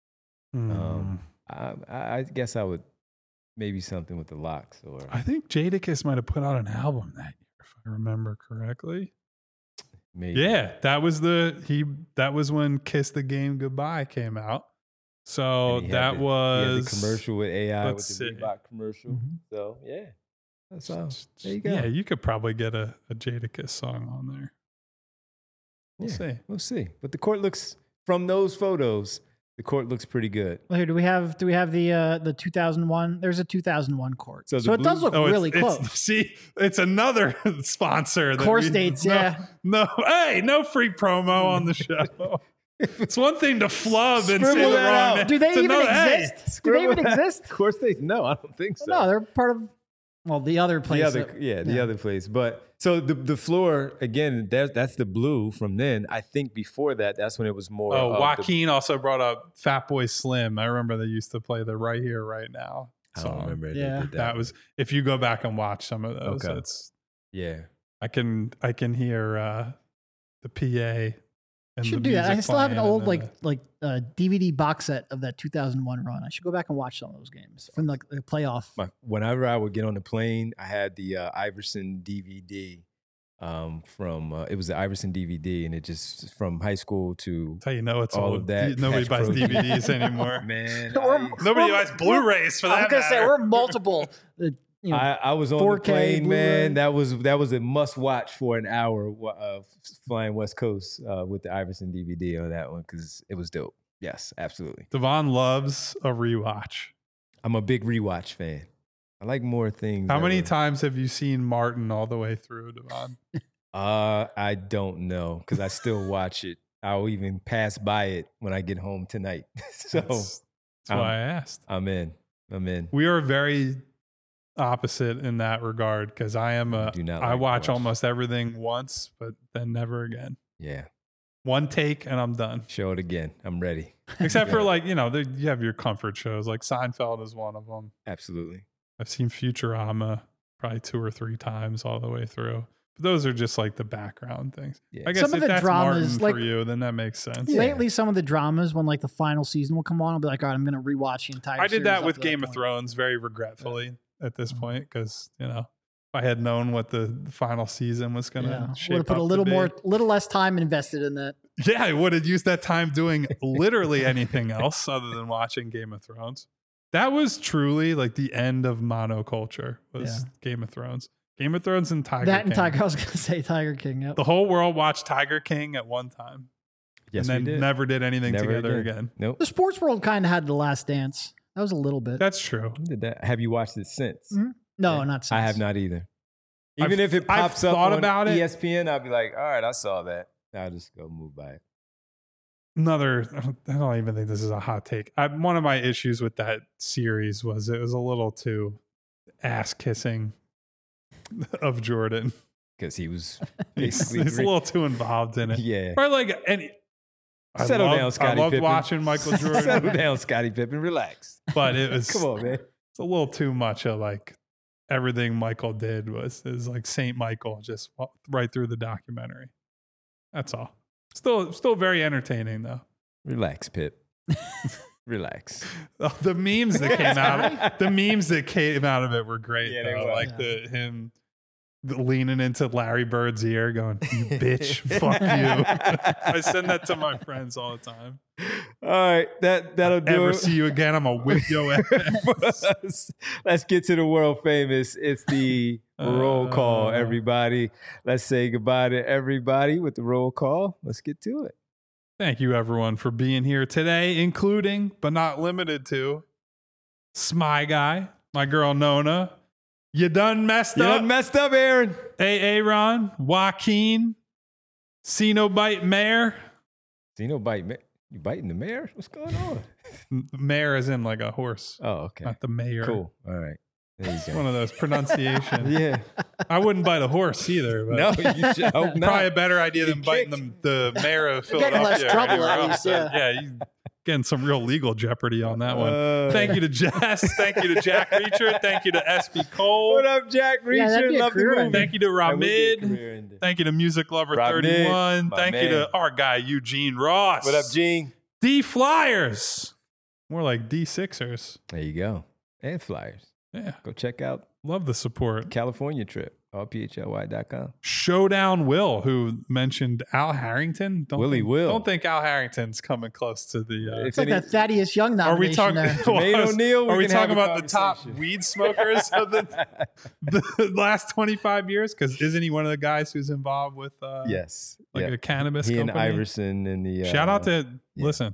[SPEAKER 1] I guess I would maybe something with the Locks or
[SPEAKER 2] I think Jadakiss might have put out an album that year, if I remember correctly.
[SPEAKER 1] maybe.
[SPEAKER 2] Yeah, that was when Kiss the Game Goodbye came out. So
[SPEAKER 1] And he had
[SPEAKER 2] that
[SPEAKER 1] he had
[SPEAKER 2] was
[SPEAKER 1] the commercial with AI with
[SPEAKER 2] let's
[SPEAKER 1] the
[SPEAKER 2] see.
[SPEAKER 1] Reebok commercial.
[SPEAKER 3] Mhm.
[SPEAKER 1] So yeah, that's all. There you go.
[SPEAKER 2] Yeah, you could probably get a Jadakiss song on there. We'll
[SPEAKER 1] Yeah.
[SPEAKER 2] see.
[SPEAKER 1] We'll see. But the court looks from those photos. The court looks pretty good.
[SPEAKER 3] Well, here, do we have the 2001? There's a 2001 court,
[SPEAKER 1] So
[SPEAKER 3] so
[SPEAKER 1] the
[SPEAKER 3] it does
[SPEAKER 1] blue-
[SPEAKER 3] look really
[SPEAKER 2] it's,
[SPEAKER 3] close.
[SPEAKER 2] See, it's another sponsor. that
[SPEAKER 3] Course
[SPEAKER 2] we-
[SPEAKER 3] dates,
[SPEAKER 2] no,
[SPEAKER 3] yeah.
[SPEAKER 2] No, hey, no free promo on the show. It's one thing to flub and say
[SPEAKER 1] Scribble
[SPEAKER 2] the
[SPEAKER 1] that
[SPEAKER 2] wrong
[SPEAKER 1] out.
[SPEAKER 2] name.
[SPEAKER 3] Do they
[SPEAKER 2] It's
[SPEAKER 3] even
[SPEAKER 2] another- hey,
[SPEAKER 3] exist? Do they even exist?
[SPEAKER 1] Of course they. No, I don't think so.
[SPEAKER 3] No, they're part of. Well, the other place.
[SPEAKER 1] The other place. But so the floor again. That's the blue from then. I think before that, that's when it was more.
[SPEAKER 2] Oh,
[SPEAKER 1] of
[SPEAKER 2] Joaquin also brought up Fatboy Slim. I remember they used to play the Right Here, Right Now
[SPEAKER 1] I
[SPEAKER 2] song.
[SPEAKER 1] don't remember. They
[SPEAKER 3] Yeah.
[SPEAKER 1] did
[SPEAKER 2] That was, if you go back and watch some of those,
[SPEAKER 1] Okay.
[SPEAKER 2] it's
[SPEAKER 1] yeah.
[SPEAKER 2] I can hear the PA. And
[SPEAKER 3] Should
[SPEAKER 2] the
[SPEAKER 3] do that. I
[SPEAKER 2] music
[SPEAKER 3] still have an
[SPEAKER 2] playing
[SPEAKER 3] old
[SPEAKER 2] and
[SPEAKER 3] DVD box set of that 2001 run. I should go back and watch some of those games from the playoff.
[SPEAKER 1] Whenever I would get on the plane, I had the Iverson DVD from it was the Iverson DVD, and it just from high school to
[SPEAKER 2] That's how you know it's
[SPEAKER 1] all
[SPEAKER 2] old.
[SPEAKER 1] of that.
[SPEAKER 2] Nobody
[SPEAKER 1] Catch
[SPEAKER 2] buys
[SPEAKER 1] Pro
[SPEAKER 2] DVDs anymore.
[SPEAKER 1] man.
[SPEAKER 2] Nobody buys Blu-rays for that.
[SPEAKER 3] I was gonna say
[SPEAKER 2] matter.
[SPEAKER 3] we're multiple.
[SPEAKER 1] I was on the
[SPEAKER 3] 4K
[SPEAKER 1] plane, man.
[SPEAKER 3] Blu-ray.
[SPEAKER 1] That was a must watch for an hour flying West Coast with the Iverson DVD on that one because it was dope. Yes, absolutely.
[SPEAKER 2] Devon loves a rewatch.
[SPEAKER 1] I'm a big rewatch fan. I like more things.
[SPEAKER 2] How many
[SPEAKER 1] that were-
[SPEAKER 2] times have you seen Martin all the way through, Devon?
[SPEAKER 1] I don't know because I still watch it. I'll even pass by it when I get home tonight. So
[SPEAKER 2] That's why I asked.
[SPEAKER 1] I'm in.
[SPEAKER 2] We are very opposite in that regard because I am
[SPEAKER 1] do not
[SPEAKER 2] I
[SPEAKER 1] like
[SPEAKER 2] watch
[SPEAKER 1] watch.
[SPEAKER 2] almost everything once, but then never again.
[SPEAKER 1] Yeah,
[SPEAKER 2] One take and I'm done.
[SPEAKER 1] show it again. I'm ready.
[SPEAKER 2] Except for
[SPEAKER 1] Yeah.
[SPEAKER 2] like, you have your comfort shows. Like Seinfeld is one of them.
[SPEAKER 1] Absolutely.
[SPEAKER 2] I've seen Futurama probably 2 or 3 times all the way through. But those are just like the background things.
[SPEAKER 1] Yeah.
[SPEAKER 2] I guess
[SPEAKER 3] Some of
[SPEAKER 2] if
[SPEAKER 3] the
[SPEAKER 2] that's
[SPEAKER 3] dramas,
[SPEAKER 2] Martin
[SPEAKER 3] like-
[SPEAKER 2] for you, then that makes sense.
[SPEAKER 1] Yeah.
[SPEAKER 3] Lately, some of the dramas when like the final season will come on, I'll be like, all right, I'm going to rewatch the entire.
[SPEAKER 2] I did
[SPEAKER 3] series
[SPEAKER 2] that
[SPEAKER 3] up
[SPEAKER 2] with
[SPEAKER 3] to
[SPEAKER 2] Game of
[SPEAKER 3] point.
[SPEAKER 2] Thrones very regretfully at this
[SPEAKER 3] Mhm.
[SPEAKER 2] point because, if I had known what the final season was going to
[SPEAKER 3] Yeah,
[SPEAKER 2] shape
[SPEAKER 3] would have put
[SPEAKER 2] up
[SPEAKER 3] a
[SPEAKER 2] to
[SPEAKER 3] little
[SPEAKER 2] be.
[SPEAKER 3] little less time invested in that.
[SPEAKER 2] Yeah, I would have used that time doing literally anything else other than watching Game of Thrones. That was truly like the end of monoculture was
[SPEAKER 3] Yeah.
[SPEAKER 2] Game of Thrones. Game of Thrones and Tiger
[SPEAKER 3] That
[SPEAKER 2] King.
[SPEAKER 3] and Tiger, I was going to say Tiger King. Yep.
[SPEAKER 2] The whole world watched Tiger King at one time.
[SPEAKER 1] Yes,
[SPEAKER 2] and then
[SPEAKER 1] we did.
[SPEAKER 2] never did anything
[SPEAKER 1] Never
[SPEAKER 2] together again.
[SPEAKER 1] Nope.
[SPEAKER 3] The sports world kind of had The Last Dance. That was a little bit.
[SPEAKER 2] That's true.
[SPEAKER 1] Did that? Have you watched it since?
[SPEAKER 3] Mhm. No,
[SPEAKER 1] Yeah.
[SPEAKER 3] not since.
[SPEAKER 1] I have not either.
[SPEAKER 2] I've-
[SPEAKER 1] Even if it
[SPEAKER 2] I've
[SPEAKER 1] pops up
[SPEAKER 2] thought
[SPEAKER 1] on
[SPEAKER 2] about it.
[SPEAKER 1] ESPN, I'll be like, all right, I saw that. I'll just go move by it.
[SPEAKER 2] I don't even think this is a hot take. One of my issues with that series was it was a little too ass kissing of Jordan.
[SPEAKER 1] Because he was
[SPEAKER 2] He's
[SPEAKER 1] basically
[SPEAKER 2] a little too involved in it.
[SPEAKER 1] yeah.
[SPEAKER 2] Or like any.
[SPEAKER 1] Settle down,
[SPEAKER 2] I
[SPEAKER 1] Scottie
[SPEAKER 2] loved
[SPEAKER 1] Pippen.
[SPEAKER 2] watching Michael
[SPEAKER 1] Settle
[SPEAKER 2] Jordan,
[SPEAKER 1] down, Scottie Pippen. Relax.
[SPEAKER 2] but it was
[SPEAKER 1] Come on, man.
[SPEAKER 2] it's a little too much of like everything Michael did was like Saint Michael just right through the documentary. That's all. Still very entertaining though.
[SPEAKER 1] Relax, Pip. Relax.
[SPEAKER 2] Oh, the memes that came out of it were great.
[SPEAKER 1] Yeah,
[SPEAKER 2] though.
[SPEAKER 1] they were.
[SPEAKER 2] Like him leaning into Larry Bird's ear going, "You bitch, fuck you." I send that to my friends all the time.
[SPEAKER 1] All right, that'll do
[SPEAKER 2] Ever
[SPEAKER 1] it.
[SPEAKER 2] see you again, I'm gonna whip your ass.
[SPEAKER 1] Let's get to the world famous. It's the roll call, everybody. Let's say goodbye to everybody with the roll call. Let's get to it.
[SPEAKER 2] Thank you, everyone, for being here today, including, but not limited to, Smy Guy, my girl Nona. You done messed
[SPEAKER 1] You
[SPEAKER 2] up.
[SPEAKER 1] done messed up, Aaron.
[SPEAKER 2] Aaron, Joaquin, Cenobite Mayor.
[SPEAKER 1] Cenobite, you biting the mayor? What's going on?
[SPEAKER 2] Mayor is in like a horse,
[SPEAKER 1] Oh, okay.
[SPEAKER 2] not the mayor.
[SPEAKER 1] Cool. All right. There you
[SPEAKER 2] It's
[SPEAKER 1] go.
[SPEAKER 2] one of those pronunciations.
[SPEAKER 1] Yeah.
[SPEAKER 2] I wouldn't bite a horse either. But
[SPEAKER 1] No, you should hope not.
[SPEAKER 2] probably a better idea than
[SPEAKER 1] He
[SPEAKER 2] biting the mayor of
[SPEAKER 3] You're getting
[SPEAKER 2] Philadelphia.
[SPEAKER 3] less
[SPEAKER 2] or
[SPEAKER 3] trouble,
[SPEAKER 2] anywhere
[SPEAKER 3] at
[SPEAKER 2] else.
[SPEAKER 3] least, yeah.
[SPEAKER 2] Yeah, you getting some real legal jeopardy on that one. Thank you to Jess. Thank you to Jack Reacher. Thank you to SB Cole.
[SPEAKER 1] What up, Jack Reacher?
[SPEAKER 3] Yeah, that'd be a
[SPEAKER 1] Love the
[SPEAKER 3] career
[SPEAKER 1] movie.
[SPEAKER 3] ender.
[SPEAKER 2] Thank you to
[SPEAKER 1] That would be a
[SPEAKER 2] Ramid.
[SPEAKER 1] career ender.
[SPEAKER 2] Thank you to Music Lover
[SPEAKER 1] Ramid,
[SPEAKER 2] 31.
[SPEAKER 1] my
[SPEAKER 2] Thank you
[SPEAKER 1] man.
[SPEAKER 2] to our guy Eugene Ross.
[SPEAKER 1] What up, Gene?
[SPEAKER 2] D Flyers. More like D Sixers.
[SPEAKER 1] There you go. And Flyers.
[SPEAKER 2] Yeah.
[SPEAKER 1] Go check out
[SPEAKER 2] Love the support.
[SPEAKER 1] California trip. allphly.com.
[SPEAKER 2] Showdown Will, who mentioned Al Harrington. Don't think Al Harrington's coming close to the.
[SPEAKER 3] It's like that Thaddeus Young
[SPEAKER 2] Are we
[SPEAKER 3] nomination
[SPEAKER 2] talking?
[SPEAKER 3] there.
[SPEAKER 1] Jermaine O'Neal,
[SPEAKER 2] Are we
[SPEAKER 1] we can have
[SPEAKER 2] talking
[SPEAKER 1] a
[SPEAKER 2] about the top
[SPEAKER 1] conversation.
[SPEAKER 2] weed smokers of the last 25 years? Because isn't he one of the guys who's involved with
[SPEAKER 1] Yes.
[SPEAKER 2] like
[SPEAKER 1] Yeah.
[SPEAKER 2] a cannabis
[SPEAKER 1] He
[SPEAKER 2] company?
[SPEAKER 1] and Iverson and the
[SPEAKER 2] Shout out to
[SPEAKER 1] yeah.
[SPEAKER 2] listen.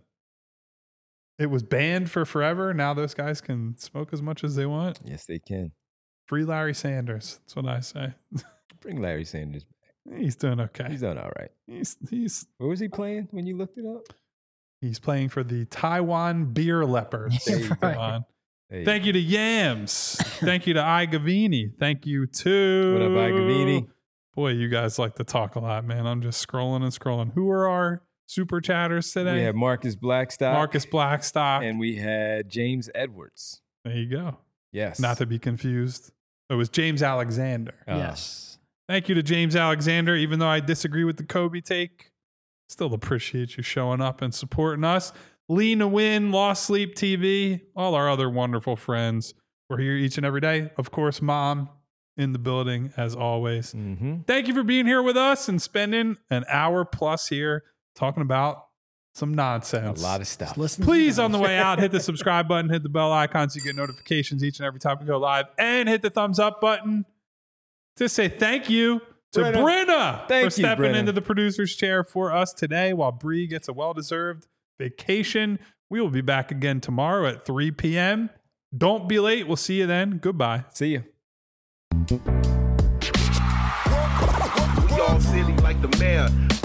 [SPEAKER 2] It was banned for forever. Now those guys can smoke as much as they want.
[SPEAKER 1] Yes, they can.
[SPEAKER 2] Free Larry Sanders. That's what I say.
[SPEAKER 1] Bring Larry Sanders back.
[SPEAKER 2] He's doing okay.
[SPEAKER 1] He's done all right.
[SPEAKER 2] He's
[SPEAKER 1] Where was he playing when you looked it up?
[SPEAKER 2] He's playing for the Taiwan Beer Leopards.
[SPEAKER 1] There you go.
[SPEAKER 3] Right.
[SPEAKER 2] Come on.
[SPEAKER 1] There you
[SPEAKER 2] Thank you to Yams. Thank you to I Gavini. Thank you to
[SPEAKER 1] What up, I Gavini?
[SPEAKER 2] Boy, you guys like to talk a lot, man. I'm just scrolling and scrolling. Who are our super chatters
[SPEAKER 1] go.
[SPEAKER 2] today?
[SPEAKER 1] We had Marcus Blackstock.
[SPEAKER 2] Marcus Blackstock.
[SPEAKER 1] And we had James Edwards.
[SPEAKER 2] There you go.
[SPEAKER 1] Yes.
[SPEAKER 2] Not to be confused. It was James Alexander.
[SPEAKER 3] Yes.
[SPEAKER 2] Thank you to James Alexander. Even though I disagree with the Kobe take, still appreciate you showing up and supporting us. Lee Nguyen, Lost Sleep TV, all our other wonderful friends. We're here each and every day. Of course, Mom in the building as always.
[SPEAKER 1] Mm-hmm.
[SPEAKER 2] Thank you for being here with us and spending an hour plus here talking about some
[SPEAKER 1] A
[SPEAKER 2] nonsense.
[SPEAKER 1] lot of stuff.
[SPEAKER 3] Listen.
[SPEAKER 2] Please, on the way out, hit the subscribe button, hit the bell icon so you get notifications each and every time we go live, and hit the thumbs up button to say thank you to Brenna
[SPEAKER 1] Thank
[SPEAKER 2] for
[SPEAKER 1] you,
[SPEAKER 2] stepping
[SPEAKER 1] Brenna.
[SPEAKER 2] into the producer's chair for us today while Bree gets a well-deserved vacation. We will be back again tomorrow at 3 p.m. Don't be late. We'll see you then. Goodbye.
[SPEAKER 1] See you.
[SPEAKER 4] We all silly like the mayor.